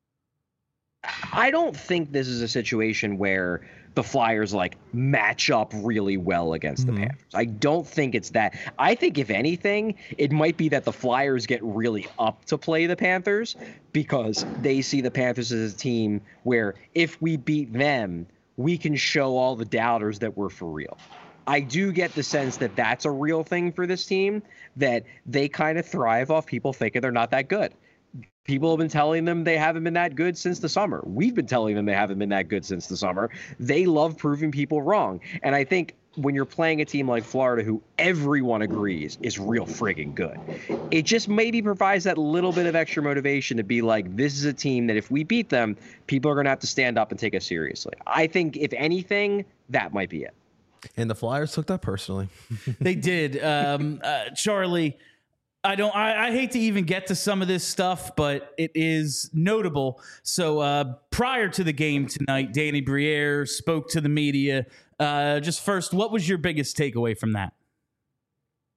I don't think this is a situation where the Flyers like match up really well against the Panthers. I don't think it's that. I think if anything, it might be that the Flyers get really up to play the Panthers because they see the Panthers as a team where if we beat them, we can show all the doubters that we're for real. I do get the sense that that's a real thing for this team, that they kind of thrive off people thinking they're not that good. People have been telling them they haven't been that good since the summer. We've been telling them they haven't been that good since the summer. They love proving people wrong. And I think when you're playing a team like Florida, who everyone agrees is real friggin' good, it just maybe provides that little bit of extra motivation to be like, this is a team that if we beat them, people are going to have to stand up and take us seriously. I think, if anything, that might be it. And the Flyers took that personally. They did. Charlie, I hate to even get to some of this stuff, but it is notable. So prior to the game tonight, Danny Briere spoke to the media. Just first, what was your biggest takeaway from that?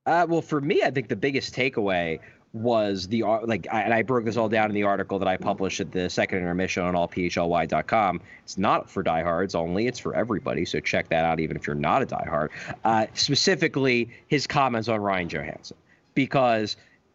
Well, for me, I think the biggest takeaway was and I broke this all down in the article that I published at the second intermission on allphly.com. It's not for diehards only; it's for everybody. So check that out, even if you're not a diehard. Specifically, his comments on Ryan Johansen, because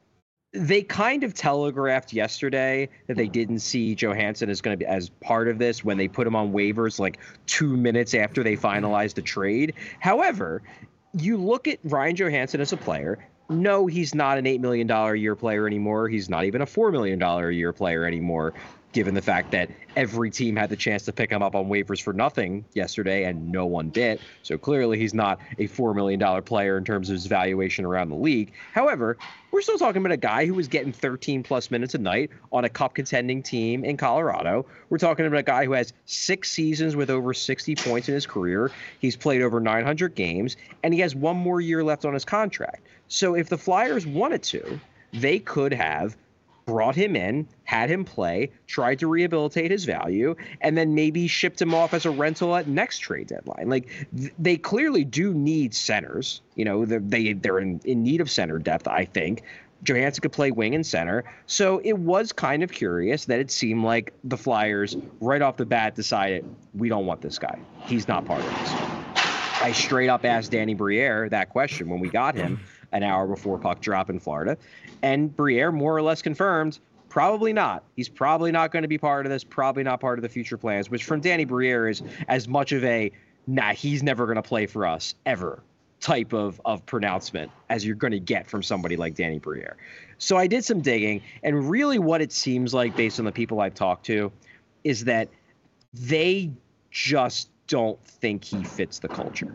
they kind of telegraphed yesterday that they didn't see Johansen as going to be as part of this when they put him on waivers like 2 minutes after they finalized the trade. However, you look at Ryan Johansen as a player. No, he's not an $8 million a year player anymore. He's not even a $4 million a year player anymore, given the fact that every team had the chance to pick him up on waivers for nothing yesterday and no one bit. So clearly he's not a $4 million player in terms of his valuation around the league. However, we're still talking about a guy who was getting 13 plus minutes a night on a cup contending team in Colorado. We're talking about a guy who has 6 seasons with over 60 points in his career. He's played over 900 games and he has 1 more year left on his contract. So if the Flyers wanted to, they could have brought him in, had him play, tried to rehabilitate his value, and then maybe shipped him off as a rental at next trade deadline. Like they clearly do need centers. You know, they're in need of center depth, I think. Johansen could play wing and center. So it was kind of curious that it seemed like the Flyers right off the bat decided, we don't want this guy. He's not part of this. I straight up asked Danny Briere that question when we got him an hour before puck drop in Florida. And Briere more or less confirmed, probably not. He's probably not going to be part of this, probably not part of the future plans, which from Danny Briere is as much of a, nah, he's never going to play for us ever type of pronouncement as you're going to get from somebody like Danny Briere. So I did some digging, and really what it seems like based on the people I've talked to is that they just don't think he fits the culture.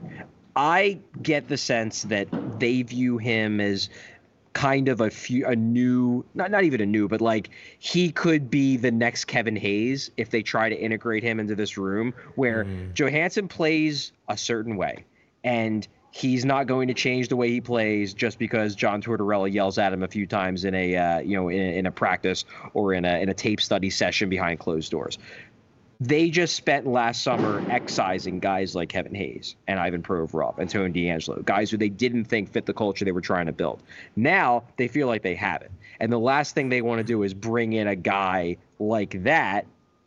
I get the sense that they view him as kind of a new, not even a new, but like he could be the next Kevin Hayes if they try to integrate him into this room where Johansen plays a certain way and he's not going to change the way he plays just because John Tortorella yells at him a few times in a in a practice or in a tape study session behind closed doors. They just spent last summer excising guys like Kevin Hayes and Ivan Provorov and Tony DeAngelo, guys who they didn't think fit the culture they were trying to build. Now they feel like they have it. And the last thing they want to do is bring in a guy like that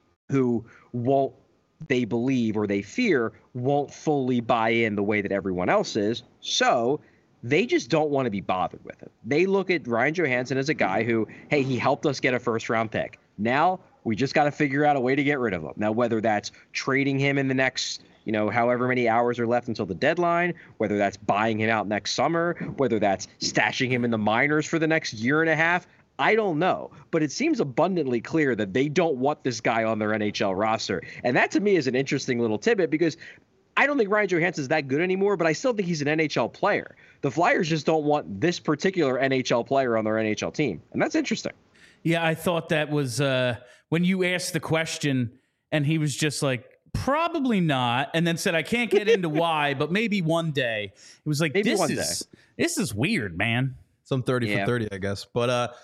who won't, they believe or they fear, won't fully buy in the way that everyone else is. So they just don't want to be bothered with it. They look at Ryan Johansen as a guy who, hey, he helped us get a first-round pick. Now we just got to figure out a way to get rid of him. Now, whether that's trading him in the next, however many hours are left until the deadline, whether that's buying him out next summer, whether that's stashing him in the minors for the next year and a half, I don't know. But it seems abundantly clear that they don't want this guy on their NHL roster. And that to me is an interesting little tidbit because I don't think Ryan Johansen is that good anymore, but I still think he's an NHL player. The Flyers just don't want this particular NHL player on their NHL team. And that's interesting. Yeah, I thought that was when you asked the question and he was just like, probably not. And then said, I can't get into why, but maybe one day. It was like, this is weird, man. Some 30 for 30, I guess. But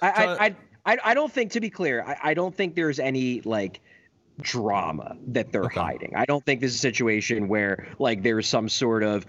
I don't think, to be clear, I don't think there's any like drama that they're hiding. I don't think this is a situation where like there's some sort of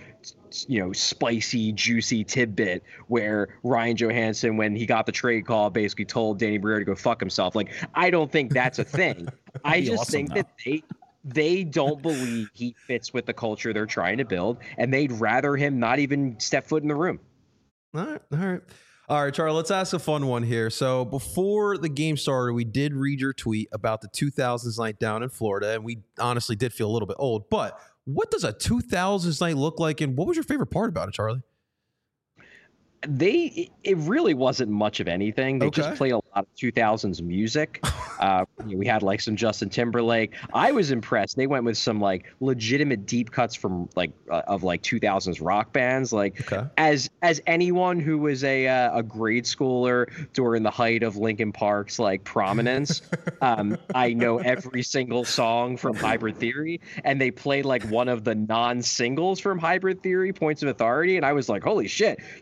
spicy, juicy tidbit where Ryan Johansen, when he got the trade call, basically told Danny Briere to go fuck himself. Like, I don't think that's a thing. I just think that they don't believe he fits with the culture they're trying to build, and they'd rather him not even step foot in the room. All right, Charlie, let's ask a fun one here. So before the game started, we did read your tweet about the 2000s night down in Florida, and we honestly did feel a little bit old. But what does a 2000s night look like, and what was your favorite part about it, Charlie? It really wasn't much of anything. They just play a lot of 2000s music. We had like some Justin Timberlake. I was impressed. They went with some like legitimate deep cuts from like of like 2000s rock bands. Like as anyone who was a grade schooler during the height of Linkin Park's like prominence, I know every single song from Hybrid Theory, and they played like one of the non-singles from Hybrid Theory, Points of Authority, and I was like, holy shit, you guys really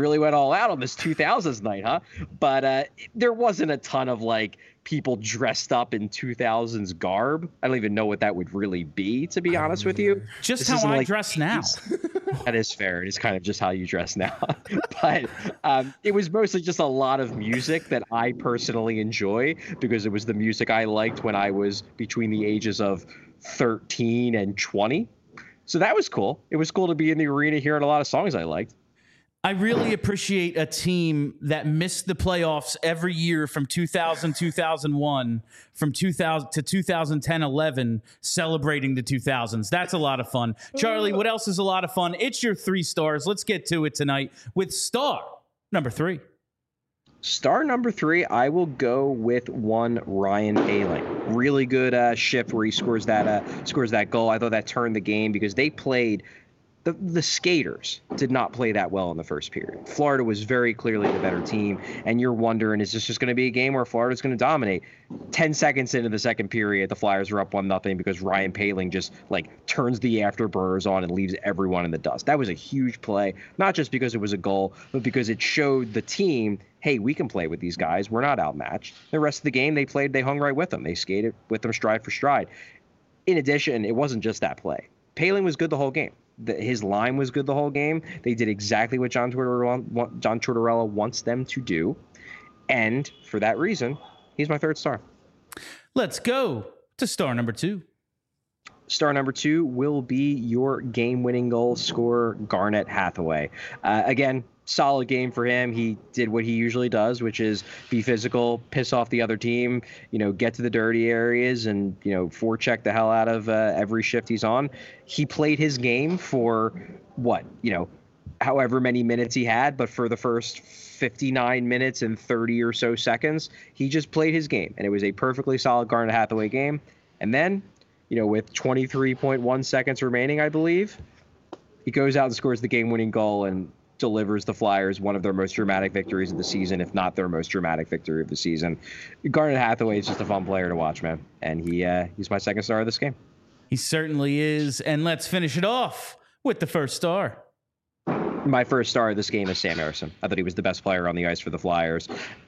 really went all out on this 2000s night, huh? But there wasn't a ton of like people dressed up in 2000s garb. I don't even know what that would really be, to be honest with you. Just This how I like dress now. That is fair. It is kind of just how you dress now. But it was mostly just a lot of music that I personally enjoy because it was the music I liked when I was between the ages of 13 and 20. So that was cool. It was cool to be in the arena hearing a lot of songs I liked. I really appreciate a team that missed the playoffs every year from 2000, 2001, from 2000 to 2010, 11, celebrating the 2000s. That's a lot of fun. Charlie, what else is a lot of fun? It's your 3 stars. Let's get to it tonight with star number 3. Star number 3, I will go with one Ryan Poehling. Really good shift where he scores that goal. I thought that turned the game because they played. The skaters did not play that well in the first period. Florida was very clearly the better team, and you're wondering, is this just going to be a game where Florida's going to dominate? 10 seconds into the second period, the Flyers are up 1-0 because Ryan Poehling just like turns the afterburners on and leaves everyone in the dust. That was a huge play, not just because it was a goal, but because it showed the team, hey, we can play with these guys. We're not outmatched. The rest of the game, they hung right with them. They skated with them stride for stride. In addition, it wasn't just that play. Poehling was good the whole game. His line was good the whole game. They did exactly what John Tortorella wants them to do. And for that reason, he's my 3rd star. Let's go to star number 2. Star number 2 will be your game-winning goal scorer, Garnet Hathaway. Again, solid game for him. He did what he usually does, which is be physical, piss off the other team, get to the dirty areas and, forecheck the hell out of every shift he's on. He played his game for however many minutes he had, but for the first 59 minutes and 30 or so seconds, he just played his game. And it was a perfectly solid Garnet Hathaway game. And then, with 23.1 seconds remaining, I believe, he goes out and scores the game-winning goal and delivers the Flyers one of their most dramatic victories of the season, if not their most dramatic victory of the season. Garnet Hathaway is just a fun player to watch, man. And he's my 2nd star of this game. He certainly is. And let's finish it off with the 1st star. My 1st star of this game is Sam Ersson. I thought he was the best player on the ice for the Flyers.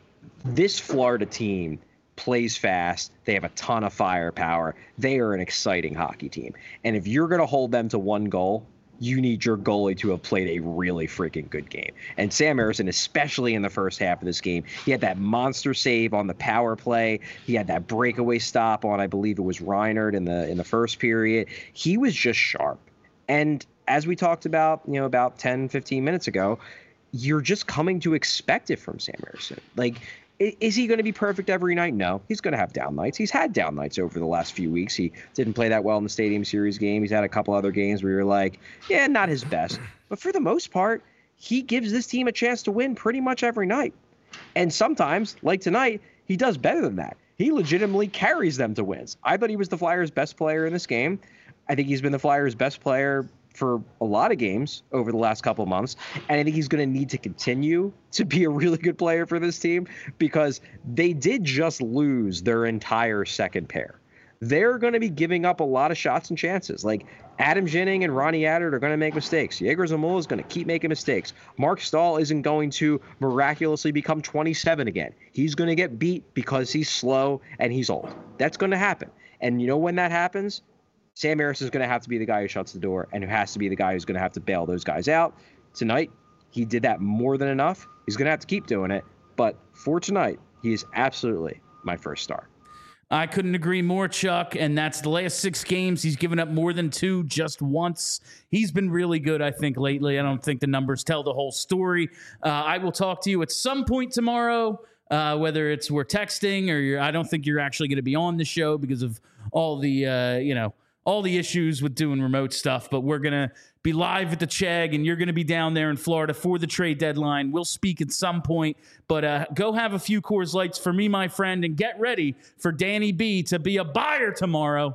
This Florida team plays fast. They have a ton of firepower. They are an exciting hockey team. And if you're going to hold them to 1 goal, you need your goalie to have played a really freaking good game. And Sam Ersson, especially in the first half of this game, he had that monster save on the power play. He had that breakaway stop on, I believe it was Reinert in the first period. He was just sharp. And as we talked about, about 10, 15 minutes ago, you're just coming to expect it from Sam Ersson. Like, is he going to be perfect every night? No, he's going to have down nights. He's had down nights over the last few weeks. He didn't play that well in the Stadium Series game. He's had a couple other games where you're like, yeah, not his best. But for the most part, he gives this team a chance to win pretty much every night. And sometimes, like tonight, he does better than that. He legitimately carries them to wins. I thought he was the Flyers' best player in this game. I think he's been the Flyers' best player for a lot of games over the last couple of months. And I think he's going to need to continue to be a really good player for this team because they did just lose their entire second pair. They're going to be giving up a lot of shots and chances. Like Adam Ginning and Ronnie Attard are going to make mistakes. Yegor Zamula is going to keep making mistakes. Mark Stahl isn't going to miraculously become 27 again. He's going to get beat because he's slow and he's old. That's going to happen. And when that happens, Sam Ersson is going to have to be the guy who shuts the door and who has to be the guy who's going to have to bail those guys out. Tonight, he did that more than enough. He's going to have to keep doing it. But for tonight, he is absolutely my 1st star. I couldn't agree more, Chuck. And that's the last 6 games. He's given up more than 2 just once. He's been really good, I think, lately. I don't think the numbers tell the whole story. I will talk to you at some point tomorrow, whether it's we're texting or I don't think you're actually going to be on the show because of all the, all the issues with doing remote stuff, but we're going to be live at the Chegg, and you're going to be down there in Florida for the trade deadline. We'll speak at some point, but go have a few Coors Lights for me, my friend, and get ready for Danny B to be a buyer tomorrow.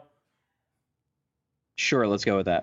Sure, let's go with that.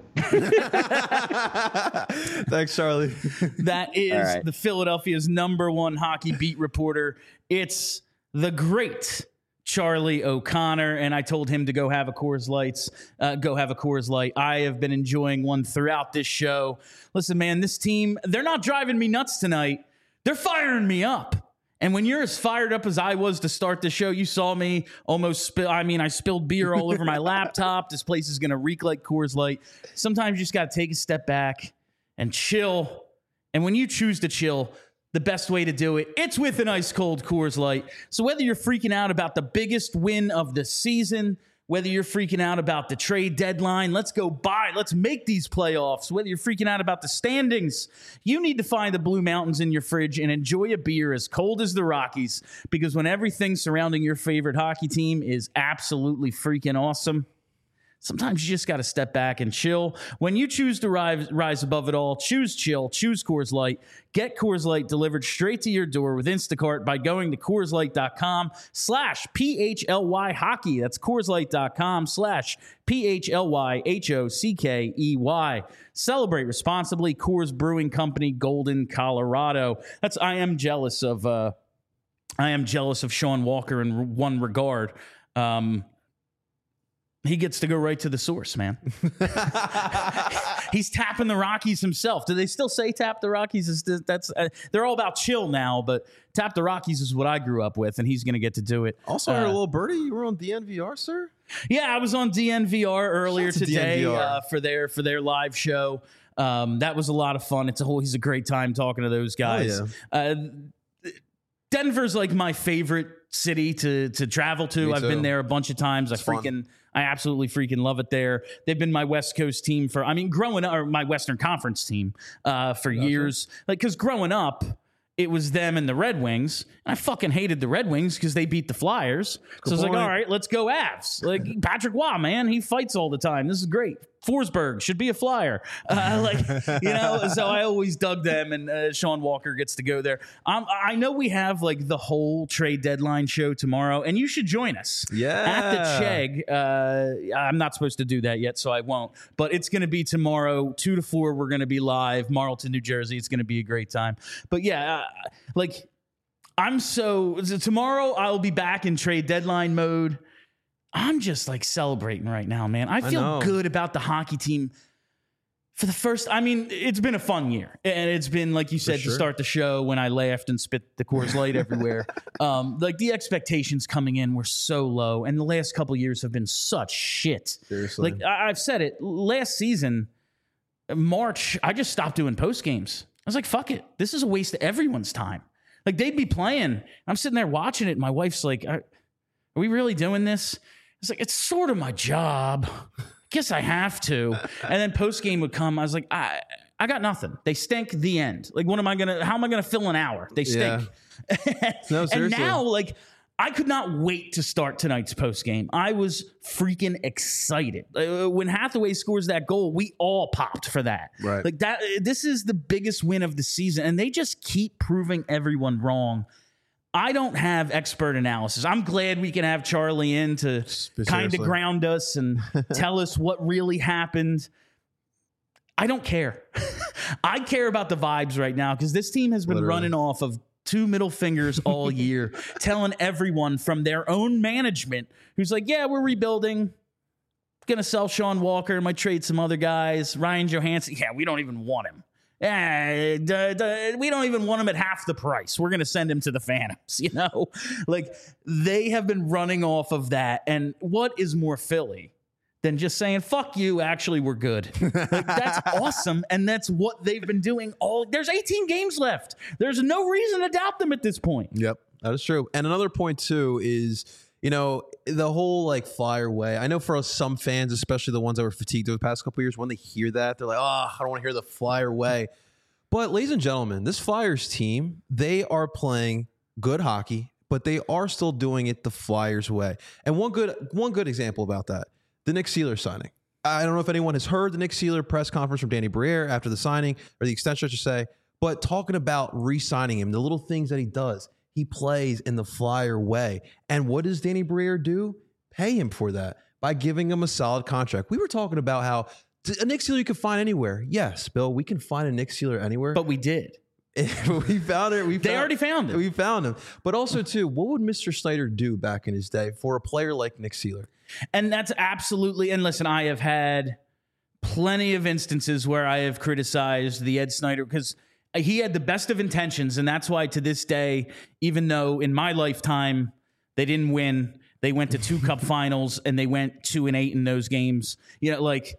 Thanks, Charlie. That is the Philadelphia's #1 hockey beat reporter. It's the great Charlie O'Connor, and I told him to go have a Coors Light. I have been enjoying one throughout this show. Listen, man, this team, they're not driving me nuts tonight. they're firing me up. And when you're as fired up as I was to start the show, you saw me almost spill. I mean, I spilled beer all over my laptop. This place is going to reek like Coors Light. Sometimes you just got to take a step back and chill. And when you choose to chill, the best way to do it, it's with an ice cold Coors Light. So whether you're freaking out about the biggest win of the season, whether you're freaking out about the trade deadline, let's go buy, let's make these playoffs, whether you're freaking out about the standings, you need to find the Blue Mountains in your fridge and enjoy a beer as cold as the Rockies, because when everything surrounding your favorite hockey team is absolutely freaking awesome, sometimes you just got to step back and chill. When you choose to rise above it all, choose chill, choose Coors Light. Get Coors Light delivered straight to your door with Instacart by going to CoorsLight.com/PHLY hockey. That's CoorsLight.com/PHLYHOCKEY. Celebrate responsibly. Coors Brewing Company, Golden, Colorado. I am jealous of Sean Walker in one regard. He gets to go right to the source, man. He's tapping the Rockies himself. Do they still say tap the Rockies? They're all about chill now, but tap the Rockies is what I grew up with, and he's going to get to do it. Also, heard a little birdie. You were on DNVR, sir? Yeah, I was on DNVR earlier today DNVR. For their live show. That was a lot of fun. He's a great time talking to those guys. Oh, yeah. Denver's like my favorite city to travel to. I've been there a bunch of times. I absolutely freaking love it there. They've been my West Coast team growing up, or my Western Conference team for years. Like, because growing up, it was them and the Red Wings. And I fucking hated the Red Wings because they beat the Flyers. So I was like, all right, let's go Avs. Like, Patrick Waugh, man, he fights all the time. This is great. Forsberg should be a Flyer. So I always dug them, and Sean Walker gets to go there. I know we have like the whole trade deadline show tomorrow, and you should join us. Yeah. At the Chegg. I'm not supposed to do that yet, so I won't. But it's going to be tomorrow, 2 to 4. We're going to be live, Marlton, New Jersey. It's going to be a great time. But yeah, tomorrow I'll be back in trade deadline mode. I'm just like celebrating right now, man. I feel good about the hockey team for the first. I mean, it's been a fun year, and it's been, like you said, to start the show when I laughed and spit the Coors Light everywhere. Like, the expectations coming in were so low, and the last couple of years have been such shit. Seriously, like I've said it last season, March, I just stopped doing post games. I was like, fuck it, this is a waste of everyone's time. Like, they'd be playing, I'm sitting there watching it, and my wife's like, are we really doing this? It's like, it's sort of my job. Guess I have to. And then post game would come. I was like, I got nothing. They stink. The end. Like, how am I gonna fill an hour? They stink. Yeah. No, and now, like, I could not wait to start tonight's post game. I was freaking excited. When Hathaway scores that goal, we all popped for that. Right. Like, that. This is the biggest win of the season, and they just keep proving everyone wrong. I don't have expert analysis. I'm glad we can have Charlie in to kind of ground us and tell us what really happened. I don't care. I care about the vibes right now, because this team has been running off of 2 middle fingers all year, telling everyone from their own management, who's like, yeah, we're rebuilding. Going to sell Sean Walker, might trade some other guys. Ryan Johansson, yeah, we don't even want him. We don't even want him at half the price. We're going to send him to the Phantoms, Like, they have been running off of that. And what is more Philly than just saying, fuck you, actually, we're good. Like, that's awesome. And that's what they've been doing there's 18 games left. There's no reason to doubt them at this point. Yep, that is true. And another point, too, is, the whole, like, Flyer way. I know for some fans, especially the ones that were fatigued over the past couple of years, when they hear that, they're like, I don't want to hear the Flyer way. But, ladies and gentlemen, this Flyers team, they are playing good hockey, but they are still doing it the Flyers way. And one good example about that, the Nick Seeler signing. I don't know if anyone has heard the Nick Seeler press conference from Danny Briere after the signing, or the extension, I should say, but talking about re-signing him, the little things that he does. He plays in the Flyer way. And what does Danny Briere do? Pay him for that by giving him a solid contract. We were talking about how a Nick Seeler you can find anywhere. Yes, Bill, we can find a Nick Seeler anywhere. But we did. We found it. They already found him. We found him. But also, too, what would Mr. Snyder do back in his day for a player like Nick Seeler? And that's absolutely, and listen, I have had plenty of instances where I have criticized the Ed Snyder, because he had the best of intentions, and that's why to this day, even though in my lifetime they didn't win, they went to 2 cup finals and they went 2-8 in those games. You know, like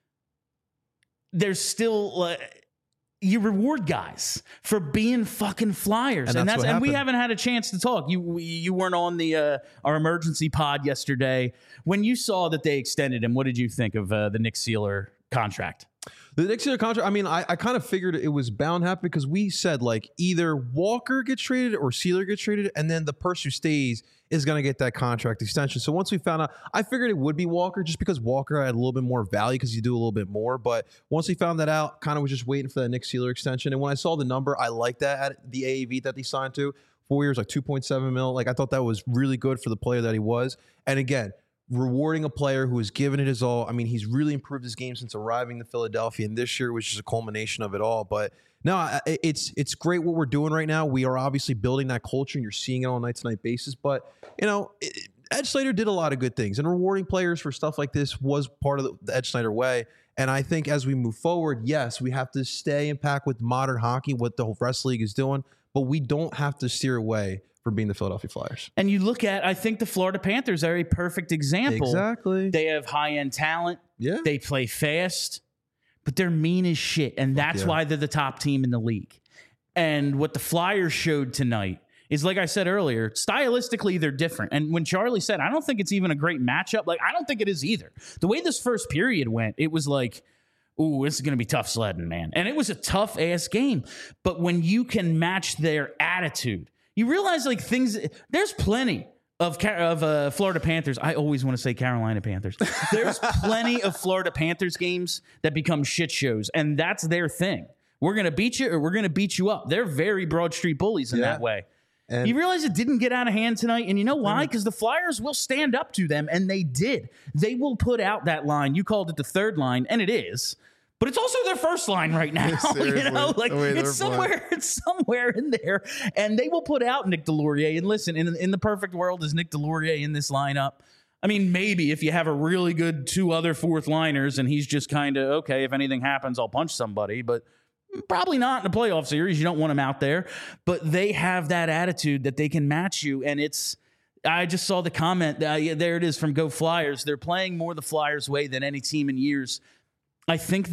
there's still you reward guys for being fucking Flyers, and we haven't had a chance to talk. You weren't on the our emergency pod yesterday. When you saw that they extended him, what did you think of the Nick Seeler contract? The Nick Seeler contract, I mean, I kind of figured it was bound to happen because we said like either Walker gets traded or Seeler gets traded, and then the person who stays is going to get that contract extension. So once we found out, I figured it would be Walker just because Walker had a little bit more value because you do a little bit more. But once we found that out, kind of was just waiting for that Nick Seeler extension. And when I saw the number, I liked that at the AAV that they signed to. 4 years, like 2.7 mil. Like I thought that was really good for the player that he was. And again, rewarding a player who has given it his all. I mean, he's really improved his game since arriving to Philadelphia, and this year was just a culmination of it all. But no, it's great what we're doing right now. We are obviously building that culture, and you're seeing it on a night-to-night basis. But, you know, Ed Snyder did a lot of good things, and rewarding players for stuff like this was part of the Ed Snyder way. And I think as we move forward, yes, we have to stay in pack with modern hockey, what the whole rest league is doing, but we don't have to steer away from being the Philadelphia Flyers. And you look at, I think the Florida Panthers are a perfect example. Exactly. They have high-end talent. Yeah. They play fast, but they're mean as shit. And that's why they're the top team in the league. And what the Flyers showed tonight is, like I said earlier, stylistically, they're different. And when Charlie said, I don't think it's even a great matchup, like, I don't think it is either. The way this first period went, it was like, ooh, this is going to be tough sledding, man. And it was a tough-ass game. But when you can match their attitude, you realize, like, things, there's plenty of Florida Panthers. I always want to say Carolina Panthers. There's plenty of Florida Panthers games that become shit shows, and that's their thing. We're going to beat you or we're going to beat you up. They're very Broad Street bullies in that way. And you realize it didn't get out of hand tonight, and you know why? Because the Flyers will stand up to them, and they did. They will put out that line. You called it the third line, and it is. But it's also their first line right now. You know, like it's somewhere in there. And they will put out Nick Delorier. And listen, in the perfect world, is Nick Delorier in this lineup? I mean, maybe if you have a really good 2 other fourth liners and he's just kind of, okay, if anything happens, I'll punch somebody. But probably not in a playoff series. You don't want him out there. But they have that attitude that they can match you. And I just saw the comment. There it is from Go Flyers. They're playing more the Flyers way than any team in years. I think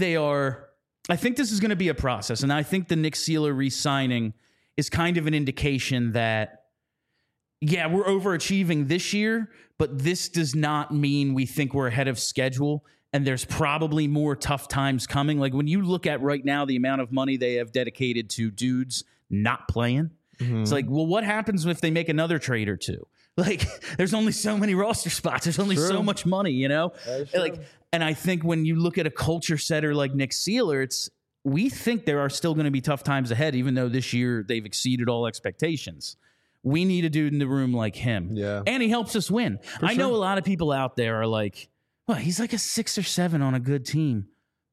this is going to be a process, and I think the Nick Seeler re-signing is kind of an indication that, yeah, we're overachieving this year, but this does not mean we think we're ahead of schedule, and there's probably more tough times coming. Like when you look at right now the amount of money they have dedicated to dudes not playing, it's like, well, what happens if they make another trade or two? Like, there's only so many roster spots. There's only so much money, you know? Like, and I think when you look at a culture setter like Nick Seeler, we think there are still going to be tough times ahead, even though this year they've exceeded all expectations. We need a dude in the room like him. Yeah. And he helps us win. I know a lot of people out there are like, well, he's like a 6 or 7 on a good team.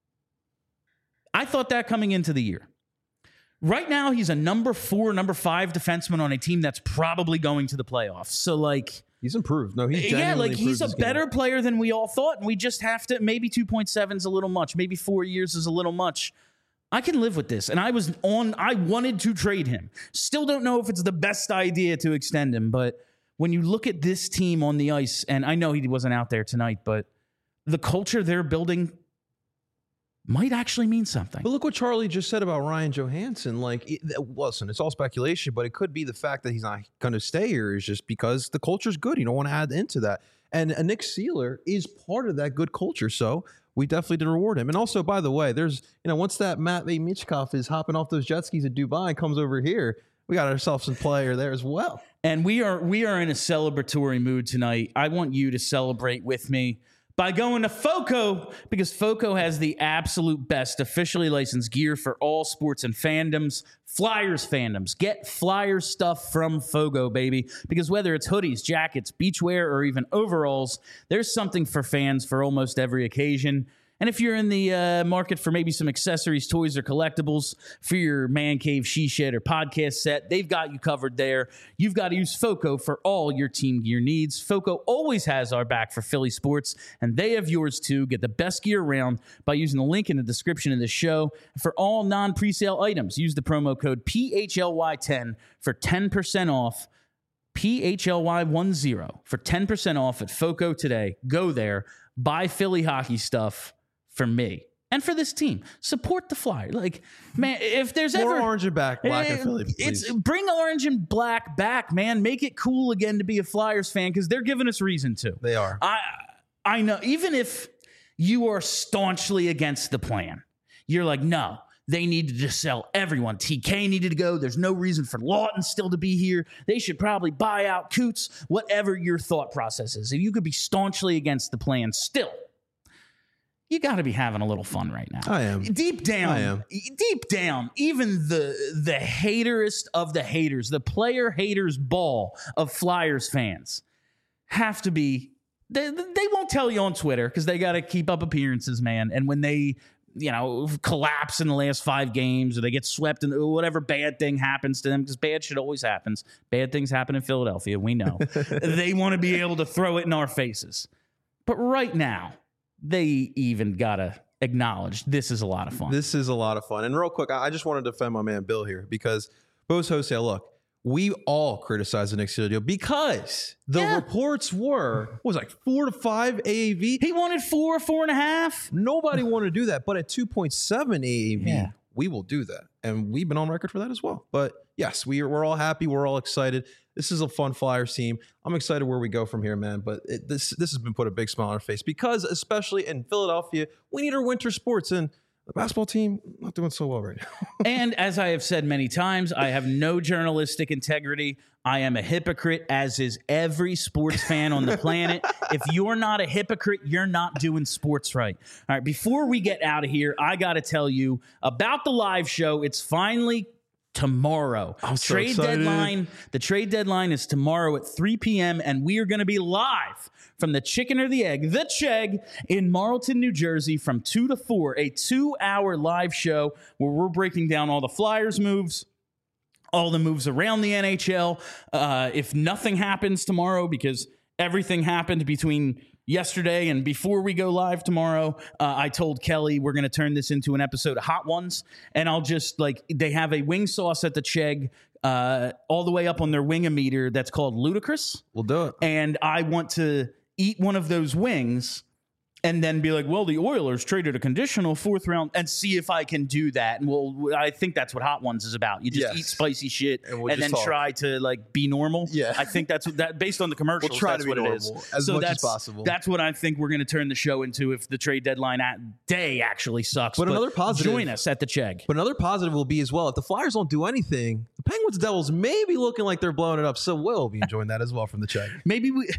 I thought that coming into the year. Right now, he's a number 4, number 5 defenseman on a team that's probably going to the playoffs. So, like, he's improved. No, he's genuinely improved. He's a better player than we all thought, and we just have to. Maybe 2.7 is a little much. Maybe 4 years is a little much. I can live with this, and I wanted to trade him. Still don't know if it's the best idea to extend him, but when you look at this team on the ice, and I know he wasn't out there tonight, but the culture they're building might actually mean something. But look what Charlie just said about Ryan Johansson. Like, listen, it's all speculation, but it could be the fact that he's not going to stay here is just because the culture's good. You don't want to add into that. And Nick Seeler is part of that good culture, so we definitely did reward him. And also, by the way, there's, once that Matvei Michkov is hopping off those jet skis at Dubai and comes over here, we got ourselves some player there as well. And we are in a celebratory mood tonight. I want you to celebrate with me by going to FOCO, because FOCO has the absolute best officially licensed gear for all sports and fandoms. Flyers fandoms. Get Flyers stuff from FOCO, baby. Because whether it's hoodies, jackets, beachwear, or even overalls, there's something for fans for almost every occasion. And if you're in the market for maybe some accessories, toys, or collectibles for your man cave, she shed, or podcast set, they've got you covered there. You've got to use FOCO for all your team gear needs. FOCO always has our back for Philly sports, and they have yours too. Get the best gear around by using the link in the description of this show. For all non-presale items, use the promo code PHLY10 for 10% off. PHLY10 for 10% off at FOCO today. Go there, buy Philly hockey stuff for me and for this team. Support the Flyers. Like, man, if there's More ever orange and black and Philly, please. Bring orange and black back, man. Make it cool again to be a Flyers fan because they're giving us reason to. They are. I know. Even if you are staunchly against the plan, you're like, no. They needed to sell everyone. TK needed to go. There's no reason for Lawton still to be here. They should probably buy out Coots, whatever your thought process is. If you could be staunchly against the plan still, you got to be having a little fun right now. I am. Deep down, even the haterest of the haters, the player haters ball of Flyers fans have to be, they won't tell you on Twitter because they got to keep up appearances, man. And when they collapse in the last 5 games or they get swept in whatever bad thing happens to them, because bad shit always happens. Bad things happen in Philadelphia. We know. They want to be able to throw it in our faces. But right now, they even got to acknowledge this is a lot of fun. This is a lot of fun. And real quick, I just wanted to defend my man Bill here because Bo's Jose, look, we all criticized the Nick Sealer deal because the reports were, what was it, like 4 to 5 AAV? He wanted 4.5. Nobody wanted to do that, but at 2.7 AAV, we will do that. And we've been on record for that as well. But yes, we're all happy. We're all excited. This is a fun Flyers team. I'm excited where we go from here, man. But this has been put a big smile on our face because, especially in Philadelphia, we need our winter sports. And the basketball team, not doing so well right now. And as I have said many times, I have no journalistic integrity. I am a hypocrite, as is every sports fan on the planet. If you're not a hypocrite, you're not doing sports right. All right, before we get out of here, I got to tell you about the live show. It's finally tomorrow. I'm so excited. The trade deadline is tomorrow at 3 p.m. and we are going to be live from the Chicken or the Egg, the Chegg in Marlton, New Jersey from 2 to 4, a 2-hour live show where we're breaking down all the Flyers moves, all the moves around the NHL. If nothing happens tomorrow, because everything happened between yesterday and before we go live tomorrow, I told Kelly we're going to turn this into an episode of Hot Ones, and I'll just, like, they have a wing sauce at the Chegg all the way up on their wing-o-meter that's called Ludicrous. We'll do it. And I want to eat one of those wings and then be like, well, the Oilers traded a conditional 4th round, and see if I can do that. And I think that's what Hot Ones is about. You just eat spicy shit and then try to, like, be normal. Yeah. I think that's what that, based on the commercials, we'll try that's to be what normal, it is. as much as possible. That's what I think we're going to turn the show into if the trade deadline day actually sucks. But another positive, join us at the Chegg. But another positive will be as well, if the Flyers don't do anything, the Penguins Devils may be looking like they're blowing it up. So we'll be enjoying that as well from the Chegg. Maybe we...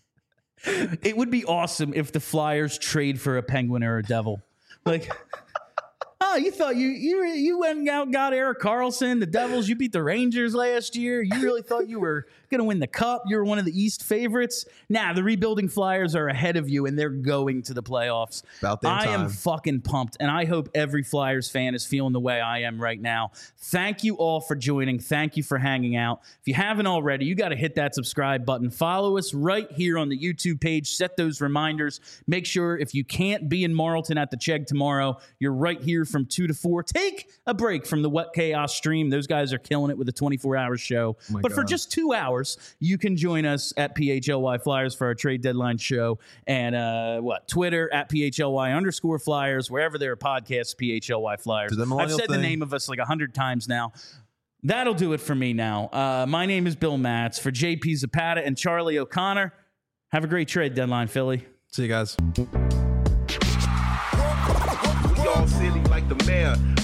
It would be awesome if the Flyers trade for a Penguin or a Devil. Like, oh, you thought you went and got Erik Karlsson, the Devils. You beat the Rangers last year. You really thought you were going to win the Cup. You were one of the East favorites. Nah, the rebuilding Flyers are ahead of you, and they're going to the playoffs. About that time. I am fucking pumped, and I hope every Flyers fan is feeling the way I am right now. Thank you all for joining. Thank you for hanging out. If you haven't already, you got to hit that subscribe button. Follow us right here on the YouTube page. Set those reminders. Make sure if you can't be in Marlton at the Chegg tomorrow, you're right here from 2 to 4. Take a break from the What Chaos stream. Those guys are killing it with a 24-hour show. But for just 2 hours, you can join us at PHLY Flyers for our trade deadline show. And Twitter at PHLY_Flyers, wherever there are podcasts, PHLY Flyers. I've said the name of us like 100 times now. That'll do it for me now. My name is Bill Matz. For JP Zapata and Charlie O'Connor, have a great trade deadline, Philly. See you guys. We all silly like the mayor.